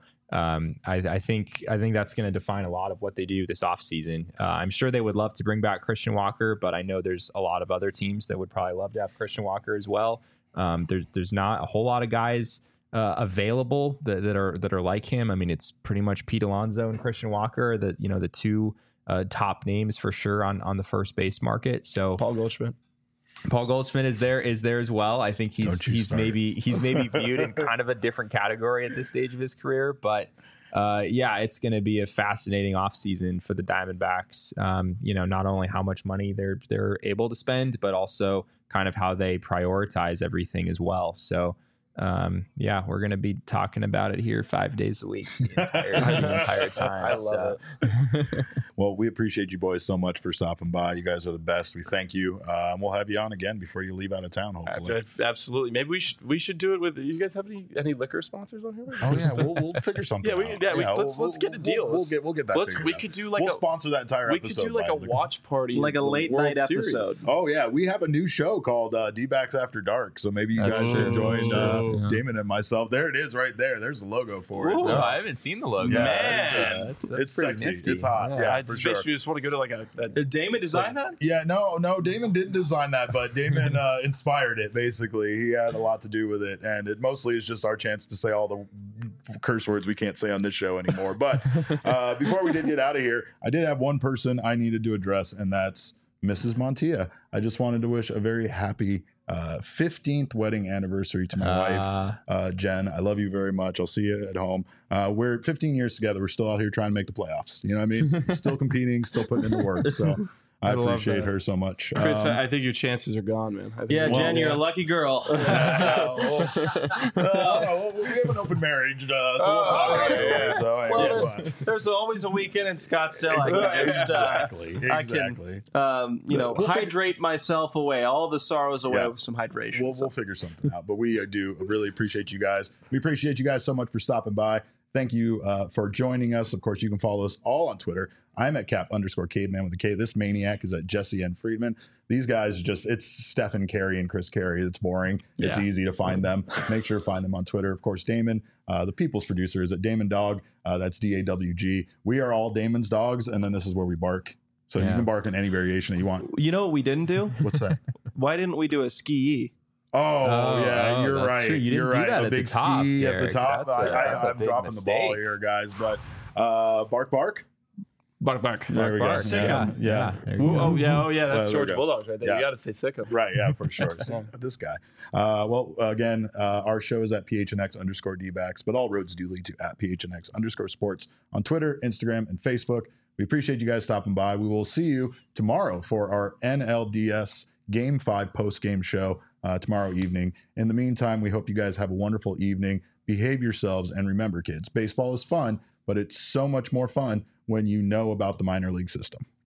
[SPEAKER 3] I think that's going to define a lot of what they do this offseason. I'm sure they would love to bring back Christian Walker, but I know there's a lot of other teams that would probably love to have Christian Walker as well. There's not a whole lot of guys available that are like him. I mean, it's pretty much Pete Alonso and Christian Walker, the two top names for sure on the first base market. So
[SPEAKER 2] Paul Goldschmidt
[SPEAKER 3] is there as well. I think he's maybe viewed in kind of a different category at this stage of his career, but it's going to be a fascinating offseason for the Diamondbacks. Not only how much money they're able to spend, but also kind of how they prioritize everything as well. So we're going to be talking about it here 5 days a week the entire time.
[SPEAKER 2] I love it.
[SPEAKER 1] Well, we appreciate you boys so much for stopping by. You guys are the best. We thank you. We'll have you on again before you leave out of town, hopefully.
[SPEAKER 2] Absolutely. Maybe we should do it with, you guys have any liquor sponsors on here?
[SPEAKER 1] Oh yeah, we'll figure something out.
[SPEAKER 2] Let's get a deal.
[SPEAKER 1] We'll get that.
[SPEAKER 2] We could do
[SPEAKER 1] we'll sponsor that entire episode.
[SPEAKER 2] We could do like a watch party,
[SPEAKER 4] like a late night episode.
[SPEAKER 1] Oh yeah, we have a new show called D-backs After Dark. So maybe you guys should join. Damon and myself. There it is right there. There's the logo for it.
[SPEAKER 3] So I haven't seen the logo.
[SPEAKER 1] Yeah,
[SPEAKER 3] Man,
[SPEAKER 1] it's sexy.
[SPEAKER 3] Nifty.
[SPEAKER 1] It's hot. Yeah,
[SPEAKER 2] for sure. You just want to go to like a
[SPEAKER 4] Did Damon design that?
[SPEAKER 1] Yeah, no, Damon didn't design that, but Damon inspired it, basically. He had a lot to do with it, and it mostly is just our chance to say all the curse words we can't say on this show anymore. But before we did get out of here, I did have one person I needed to address, and that's Mrs. Montilla. I just wanted to wish a very happy 15th wedding anniversary to my wife, Jen. I love you very much. I'll see you at home. We're 15 years together. We're still out here trying to make the playoffs. You know what I mean? Still competing, still putting in the work. So I appreciate her so much.
[SPEAKER 2] Chris, I think your chances are gone, man.
[SPEAKER 4] Jen, you're a lucky girl.
[SPEAKER 1] We have an open marriage, so we'll talk about it.
[SPEAKER 4] There's always a weekend in Scottsdale.
[SPEAKER 1] Exactly.
[SPEAKER 4] I can, hydrate myself away, all the sorrows away with some hydration.
[SPEAKER 1] We'll figure something out. But we do really appreciate you guys. We appreciate you guys so much for stopping by. Thank you for joining us. Of course, you can follow us all on Twitter. I'm at Cap_Caveman with a K. This maniac is at Jesse N. Friedman. These guys it's Stephen Carey and Chris Carey. It's boring. It's easy to find them. Make sure to find them on Twitter. Of course, Damon, the people's producer, is at Damon Dog. That's DAWG. We are all Damon's dogs, and then this is where we bark. So you can bark in any variation that you want.
[SPEAKER 4] You know what we didn't do?
[SPEAKER 1] What's that?
[SPEAKER 4] Why didn't we do a ski?
[SPEAKER 1] You're right.
[SPEAKER 3] True. You're right.
[SPEAKER 1] A big ski at the top. I'm dropping the ball here, guys. But bark.
[SPEAKER 2] Bark.
[SPEAKER 1] There we go.
[SPEAKER 2] Sickum.
[SPEAKER 1] Yeah.
[SPEAKER 2] That's George Bulldogs right there.
[SPEAKER 1] Yeah.
[SPEAKER 2] You got to say Sickum.
[SPEAKER 1] Right. Yeah, for sure. This guy. Again, our show is at PHNX_DBacks, but all roads do lead to at PHNX_sports on Twitter, Instagram, and Facebook. We appreciate you guys stopping by. We will see you tomorrow for our NLDS Game 5 post-game show tomorrow evening. In the meantime, we hope you guys have a wonderful evening. Behave yourselves. And remember, kids, baseball is fun, but it's so much more fun when you know about the minor league system.